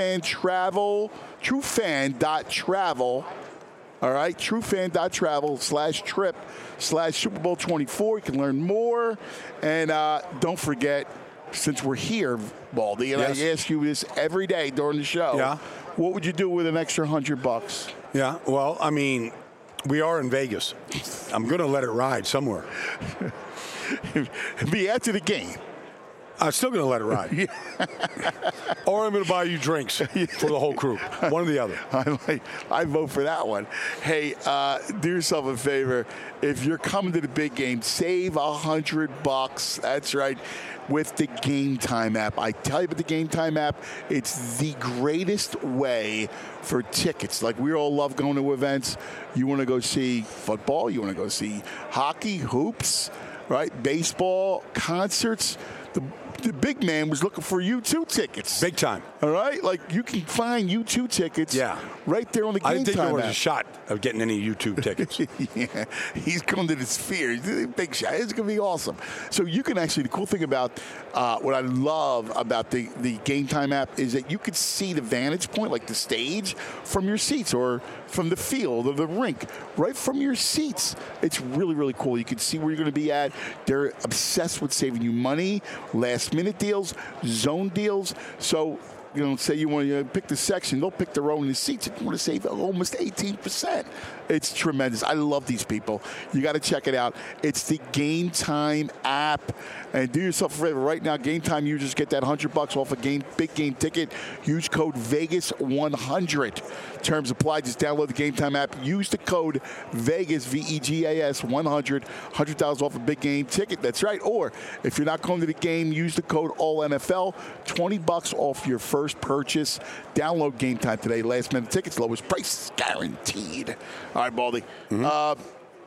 TrueFanTravel. All right, TrueFan.travel/trip/Super Bowl 24. You can learn more. And don't forget, since we're here, Baldy, and I ask you this every day during the show, what would you do with an extra $100? Yeah, well, I mean, we are in Vegas. I'm going to let it ride somewhere. Be after the game. I'm still going to let it ride. Or I'm going to buy you drinks for the whole crew. One or the other. I vote for that one. Hey, do yourself a favor. If you're coming to the big game, save $100. That's right. With the Game Time app. I tell you about the Game Time app, it's the greatest way for tickets. Like, we all love going to events. You want to go see football, you want to go see hockey, hoops, right? Baseball, concerts. The big man was looking for U2 tickets. Big time. All right? Like, you can find U2 tickets right there on the Game Time app. I didn't think there was a shot of getting any U2 tickets. Yeah, he's going to the Sphere. He's a big shot. It's going to be awesome. So you can actually, the cool thing about what I love about the Game Time app is that you could see the vantage point, like the stage, from your seats or from the field or the rink, right from your seats. It's really, really cool. You can see where you're going to be at. They're obsessed with saving you money, last-minute deals, zone deals. So, you know, say you want to pick the section, they'll pick their own in the seats. If you want to save almost 18%. It's tremendous. I love these people. You got to check it out. It's the Game Time app. And do yourself a favor. Right now, Game Time users get that $100 off a big game ticket. Use code VEGAS100. Terms apply. Just download the Game Time app. Use the code VEGAS, VEGAS 100. $100 off a big game ticket. That's right. Or if you're not going to the game, use the code ALLNFL. $20 off your first purchase. Download Game Time today. Last minute tickets, lowest price guaranteed. All right, Baldy. Mm-hmm.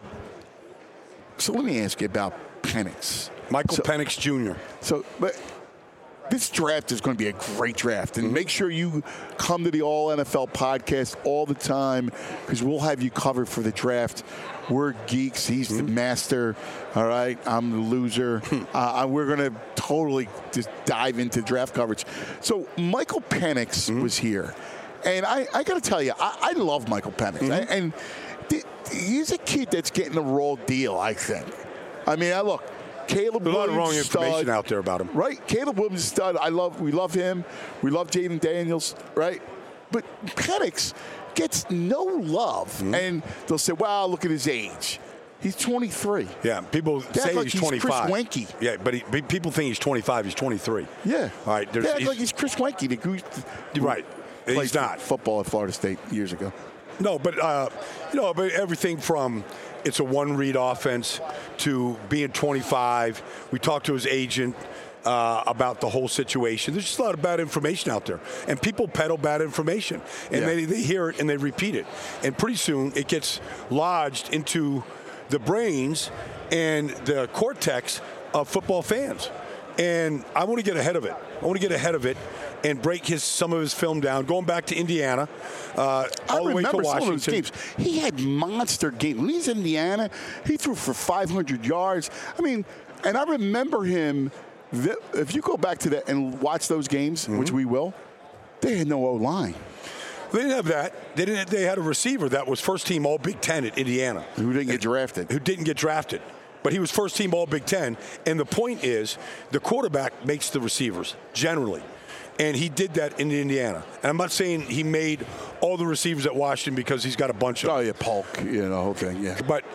So let me ask you about Penix. Michael Penix Jr. So, but this draft is going to be a great draft. And make sure you come to the All NFL podcast all the time because we'll have you covered for the draft. We're geeks. He's the master. All right. I'm the loser. We're going to totally just dive into draft coverage. So Michael Penix was here. And I got to tell you, I love Michael Penix. And he's a kid that's getting a raw deal, I think. I mean, look. Caleb Williams, a lot of wrong information out there about him. Right? Caleb Williams is stud. We love him. We love Jaden Daniels, right? But Penix gets no love. And they'll say, wow, look at his age. He's 23. Yeah, people say like he's 25. Chris Wenke. Yeah, but people think he's 25. He's 23. Yeah. All right. They act like he's Chris Wenke. Right. He's not. Football at Florida State years ago. No, but but everything from it's a one-read offense to being 25. We talked to his agent about the whole situation. There's just a lot of bad information out there, and people peddle bad information, and they hear it and they repeat it, and pretty soon it gets lodged into the brains and the cortex of football fans. And I want to get ahead of it. And break some of his film down, going back to Indiana, all the way to Washington. Some of those games. He had monster games. When he's in Indiana, he threw for 500 yards. I mean, and I remember him, if you go back to that and watch those games, which we will, they had no O-line. They didn't have that. They had a receiver that was first team All Big Ten at Indiana. Who didn't get drafted. but he was first team All Big Ten. And the point is, the quarterback makes the receivers, generally. And he did that in Indiana. And I'm not saying he made all the receivers at Washington because he's got a bunch of them. Oh, yeah, Polk, the whole thing, yeah. But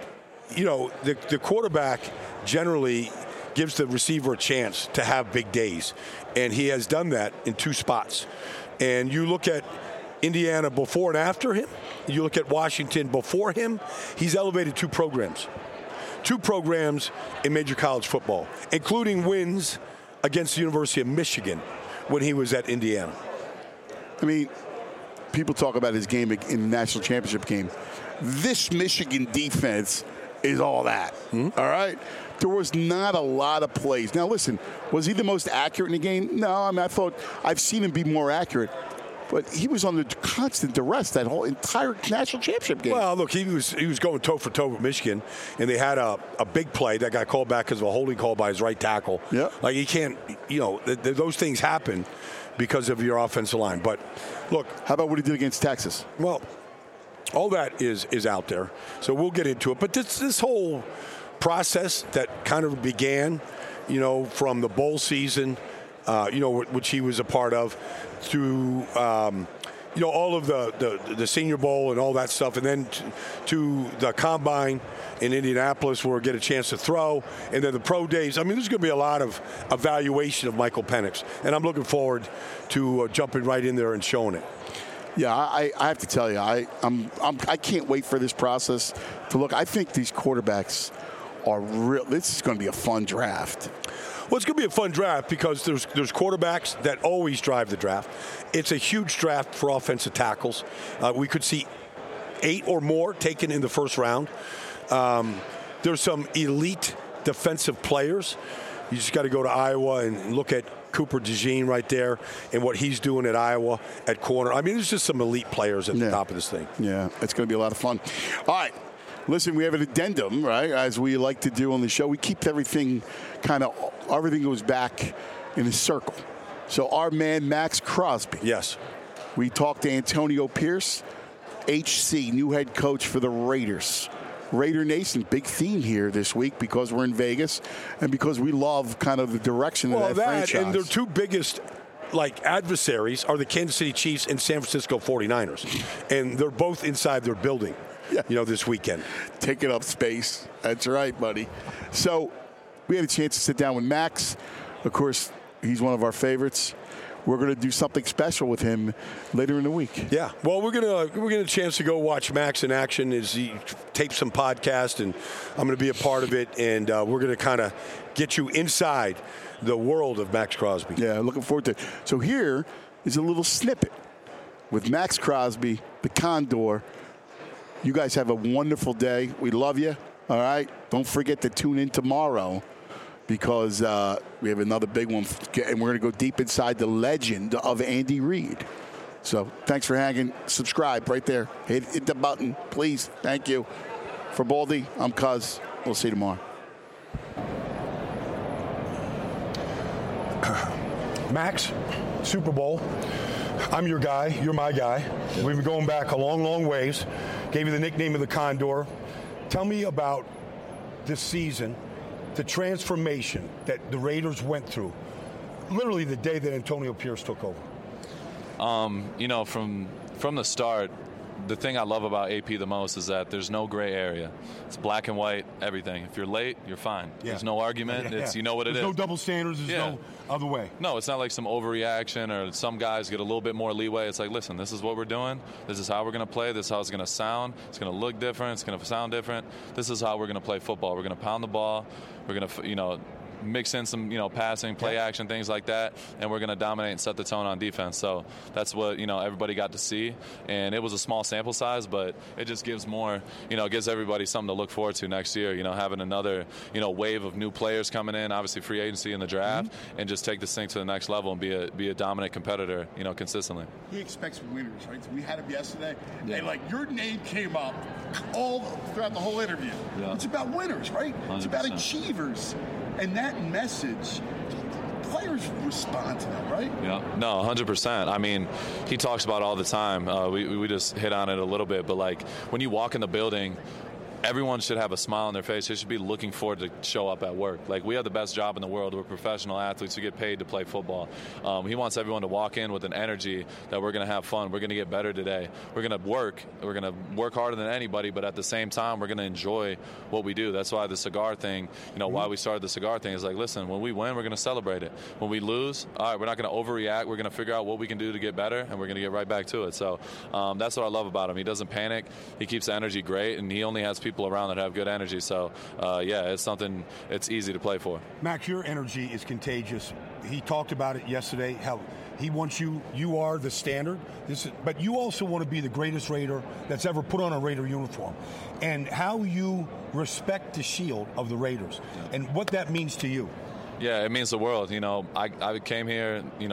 the quarterback generally gives the receiver a chance to have big days. And he has done that in 2 spots. And you look at Indiana before and after him. You look at Washington before him. He's elevated 2 programs. 2 programs in major college football, including wins against the University of Michigan when he was at Indiana. I mean, people talk about his game in the national championship game. This Michigan defense is all that, all right? There was not a lot of plays. Now, listen, was he the most accurate in the game? No, I mean, I thought I've seen him be more accurate. But he was under constant duress that whole entire national championship game. Well, look, he was going toe-for-toe with Michigan, and they had a big play that got called back because of a holding call by his right tackle. Yeah. Like, he can't, those things happen because of your offensive line. But, look. How about what he did against Texas? Well, all that is out there, so we'll get into it. But this whole process that kind of began, from the bowl season, which he was a part of, through all of the Senior Bowl and all that stuff, and then to the Combine in Indianapolis where we get a chance to throw, and then the pro days. I mean, there's going to be a lot of evaluation of Michael Penix, and I'm looking forward to jumping right in there and showing it. Yeah, I have to tell you, I can't wait for this process to look. I think these quarterbacks are real. This is going to be a fun draft. Well, it's going to be a fun draft because there's quarterbacks that always drive the draft. It's a huge draft for offensive tackles. We could see 8 or more taken in the first round. There's some elite defensive players. You just got to go to Iowa and look at Cooper DeJean right there and what he's doing at Iowa at corner. I mean, there's just some elite players at the top of this thing. Yeah, it's going to be a lot of fun. All right. Listen, we have an addendum, right, as we like to do on the show. We keep everything everything goes back in a circle. So our man, Max Crosby. Yes. We talked to Antonio Pierce, HC, new head coach for the Raiders. Raider Nation, big theme here this week because we're in Vegas and because we love kind of the direction of that franchise. And their 2 biggest adversaries are the Kansas City Chiefs and San Francisco 49ers. And they're both inside their building. Yeah. This weekend. Taking up space. That's right, buddy. So we had a chance to sit down with Max. Of course, he's one of our favorites. We're going to do something special with him later in the week. Yeah. Well, we're getting a chance to go watch Max in action as he tapes some podcast, and I'm going to be a part of it, and we're going to kind of get you inside the world of Max Crosby. Yeah, looking forward to it. So here is a little snippet with Max Crosby, the Condor. You guys have a wonderful day. We love you. All right. Don't forget to tune in tomorrow because we have another big one, and we're going to go deep inside the legend of Andy Reid. So thanks for hanging. Subscribe right there. Hit the button, please. Thank you. For Baldy, I'm Cuz. We'll see you tomorrow. Max, Super Bowl. I'm your guy. You're my guy. We've been going back a long, long ways. Gave you the nickname of the Condor. Tell me about this season, the transformation that the Raiders went through, literally the day that Antonio Pierce took over. From the start, the thing I love about AP the most is that there's no gray area. It's black and white, everything. If you're late, you're fine. Yeah. There's no argument. It's you know what it is. There's no double standards. There's no other way. No, it's not like some overreaction or some guys get a little bit more leeway. It's like, listen, this is what we're doing. This is how we're going to play. This is how it's going to sound. It's going to look different. It's going to sound different. This is how we're going to play football. We're going to pound the ball. We're going to, mix in some, passing, play action, things like that, and we're going to dominate and set the tone on defense. So that's what, everybody got to see. And it was a small sample size, but it just gives more, gives everybody something to look forward to next year, having another, wave of new players coming in, obviously free agency in the draft, and just take this thing to the next level and be a dominant competitor, consistently. He expects winners, right? So we had him yesterday, and your name came up all throughout the whole interview. Yeah. It's about winners, right? 100%. It's about achievers. And that message, players respond to that, right? Yeah, no, 100%. I mean, he talks about it all the time. We just hit on it a little bit, but when you walk in the building, everyone should have a smile on their face. They should be looking forward to show up at work. Like, we have the best job in the world. We're professional athletes who get paid to play football. He wants everyone to walk in with an energy that we're going to have fun. We're going to get better today. We're going to work. We're going to work harder than anybody, but at the same time, we're going to enjoy what we do. That's why the cigar thing, why we started the cigar thing is like, listen, when we win, we're going to celebrate it. When we lose, all right, we're not going to overreact. We're going to figure out what we can do to get better, and we're going to get right back to it. So that's what I love about him. He doesn't panic. He keeps the energy great, and he only has people around that have good energy. So, it's something it's easy to play for. Max, your energy is contagious. He talked about it yesterday, how he wants you are the standard. But you also want to be the greatest Raider that's ever put on a Raider uniform. And how you respect the shield of the Raiders and what that means to you. Yeah, it means the world. I came here, in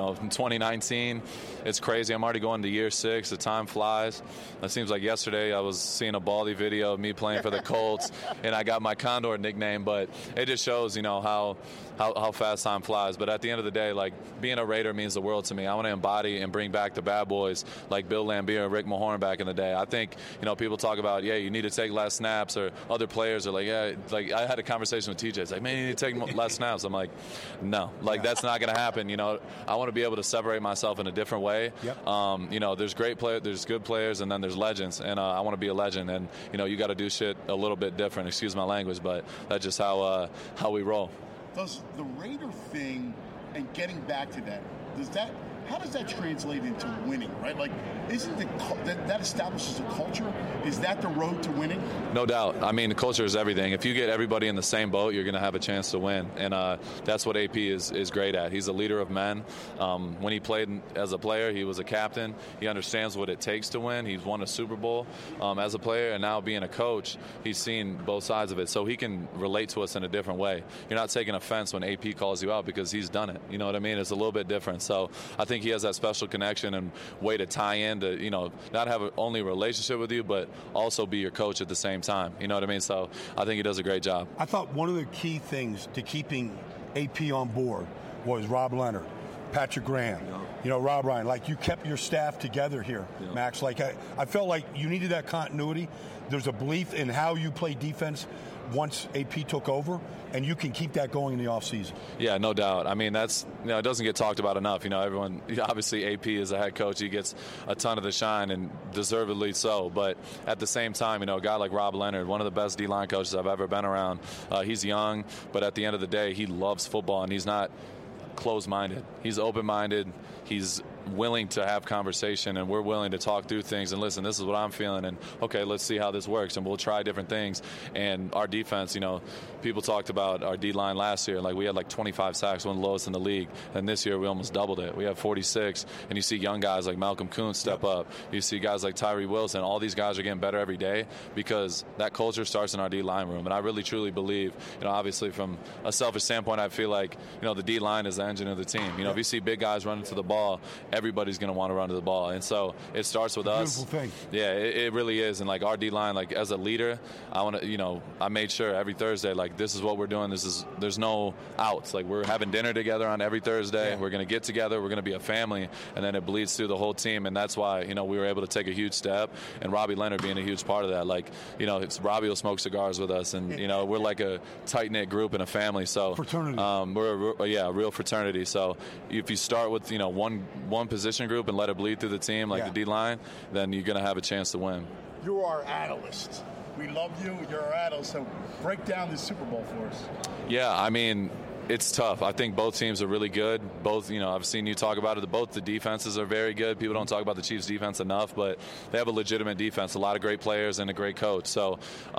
2019. It's crazy. I'm already going to year 6. The time flies. It seems like yesterday I was seeing a Baldy video of me playing for the Colts, and I got my Condor nickname. But it just shows, how fast time flies. But at the end of the day, like, being a Raider means the world to me. I want to embody and bring back the bad boys like Bill Laimbeer and Rick Mahorn back in the day. I think, people talk about, you need to take less snaps, or other players are like, I had a conversation with TJ. It's like, man, you need to take less snaps. I'm like, no, that's not going to happen. I want to be able to separate myself in a different way. Yep. There's great players, there's good players, and then there's legends, and I want to be a legend. And you got to do shit a little bit different. Excuse my language, but that's just how we roll. Does the Raider thing and getting back to that, how does that translate into winning, right? Like, isn't that establishes a culture? Is that the road to winning? No doubt. I mean, the culture is everything. If you get everybody in the same boat, you're going to have a chance to win. And that's what AP is great at. He's a leader of men. When he played as a player, he was a captain. He understands what it takes to win. He's won a Super Bowl as a player, and now being a coach, he's seen both sides of it. So he can relate to us in a different way. You're not taking offense when AP calls you out because he's done it. You know what I mean? It's a little bit different. So I think he has that special connection and way to tie in to, not have only a relationship with you, but also be your coach at the same time. You know what I mean? So I think he does a great job. I thought one of the key things to keeping AP on board was Rob Leonard, Patrick Graham, Rob Ryan. Like, you kept your staff together here, Max. Like, I felt like you needed that continuity. There's a belief in how you play defense once AP took over, and you can keep that going in the offseason. Yeah, no doubt. I mean, that's, it doesn't get talked about enough. Everyone, obviously AP is a head coach. He gets a ton of the shine, and deservedly so. But at the same time, a guy like Rob Leonard, one of the best D-line coaches I've ever been around, he's young, but at the end of the day, he loves football, and he's not closed-minded. He's open-minded. He's willing to have conversation, and we're willing to talk through things and listen, this is what I'm feeling, and okay, let's see how this works, and we'll try different things. And our defense, people talked about our D-line last year, like we had like 25 sacks, one of the lowest in the league, and this year we almost doubled it. We have 46, and you see young guys like Malcolm Kuntz step up. You see guys like Tyree Wilson. All these guys are getting better every day because that culture starts in our D-line room, and I really truly believe, obviously from a selfish standpoint, I feel like, the D-line is the engine of the team. If you see big guys running to the ball, everybody's going to want to run to the ball. And so it starts with us. Beautiful thing. Yeah, it really is. And like our D-line, like as a leader, I want to, I made sure every Thursday, like this is what we're doing. There's no outs. Like we're having dinner together on every Thursday. Yeah. We're going to get together. We're going to be a family. And then it bleeds through the whole team. And that's why, we were able to take a huge step. And Robbie Leonard being a huge part of that. Like, Robbie will smoke cigars with us. And, we're like a tight-knit group and a family. So fraternity. We're a real fraternity. So if you start with, one position group and let it bleed through the team, like the D-line, then you're going to have a chance to win. You're our analyst. We love you. You're our analyst. So break down this Super Bowl for us. Yeah, I mean, it's tough. I think both teams are really good. Both, I've seen you talk about it. Both the defenses are very good. People don't talk about the Chiefs' defense enough, but they have a legitimate defense, a lot of great players, and a great coach. So,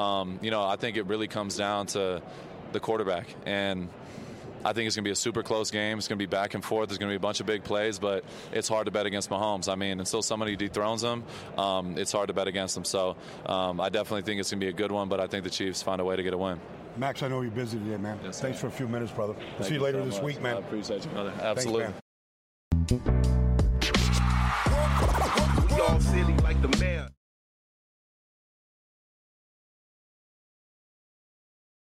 I think it really comes down to the quarterback. And I think it's going to be a super close game. It's going to be back and forth. There's going to be a bunch of big plays, but it's hard to bet against Mahomes. I mean, until somebody dethrones him, it's hard to bet against him. So I definitely think it's going to be a good one, but I think the Chiefs find a way to get a win. Max, I know you're busy today, man. Yes, thanks for a few minutes, brother. We'll see you later this week, man. I appreciate you, brother. Absolutely. Thanks, man. We all silly like the man.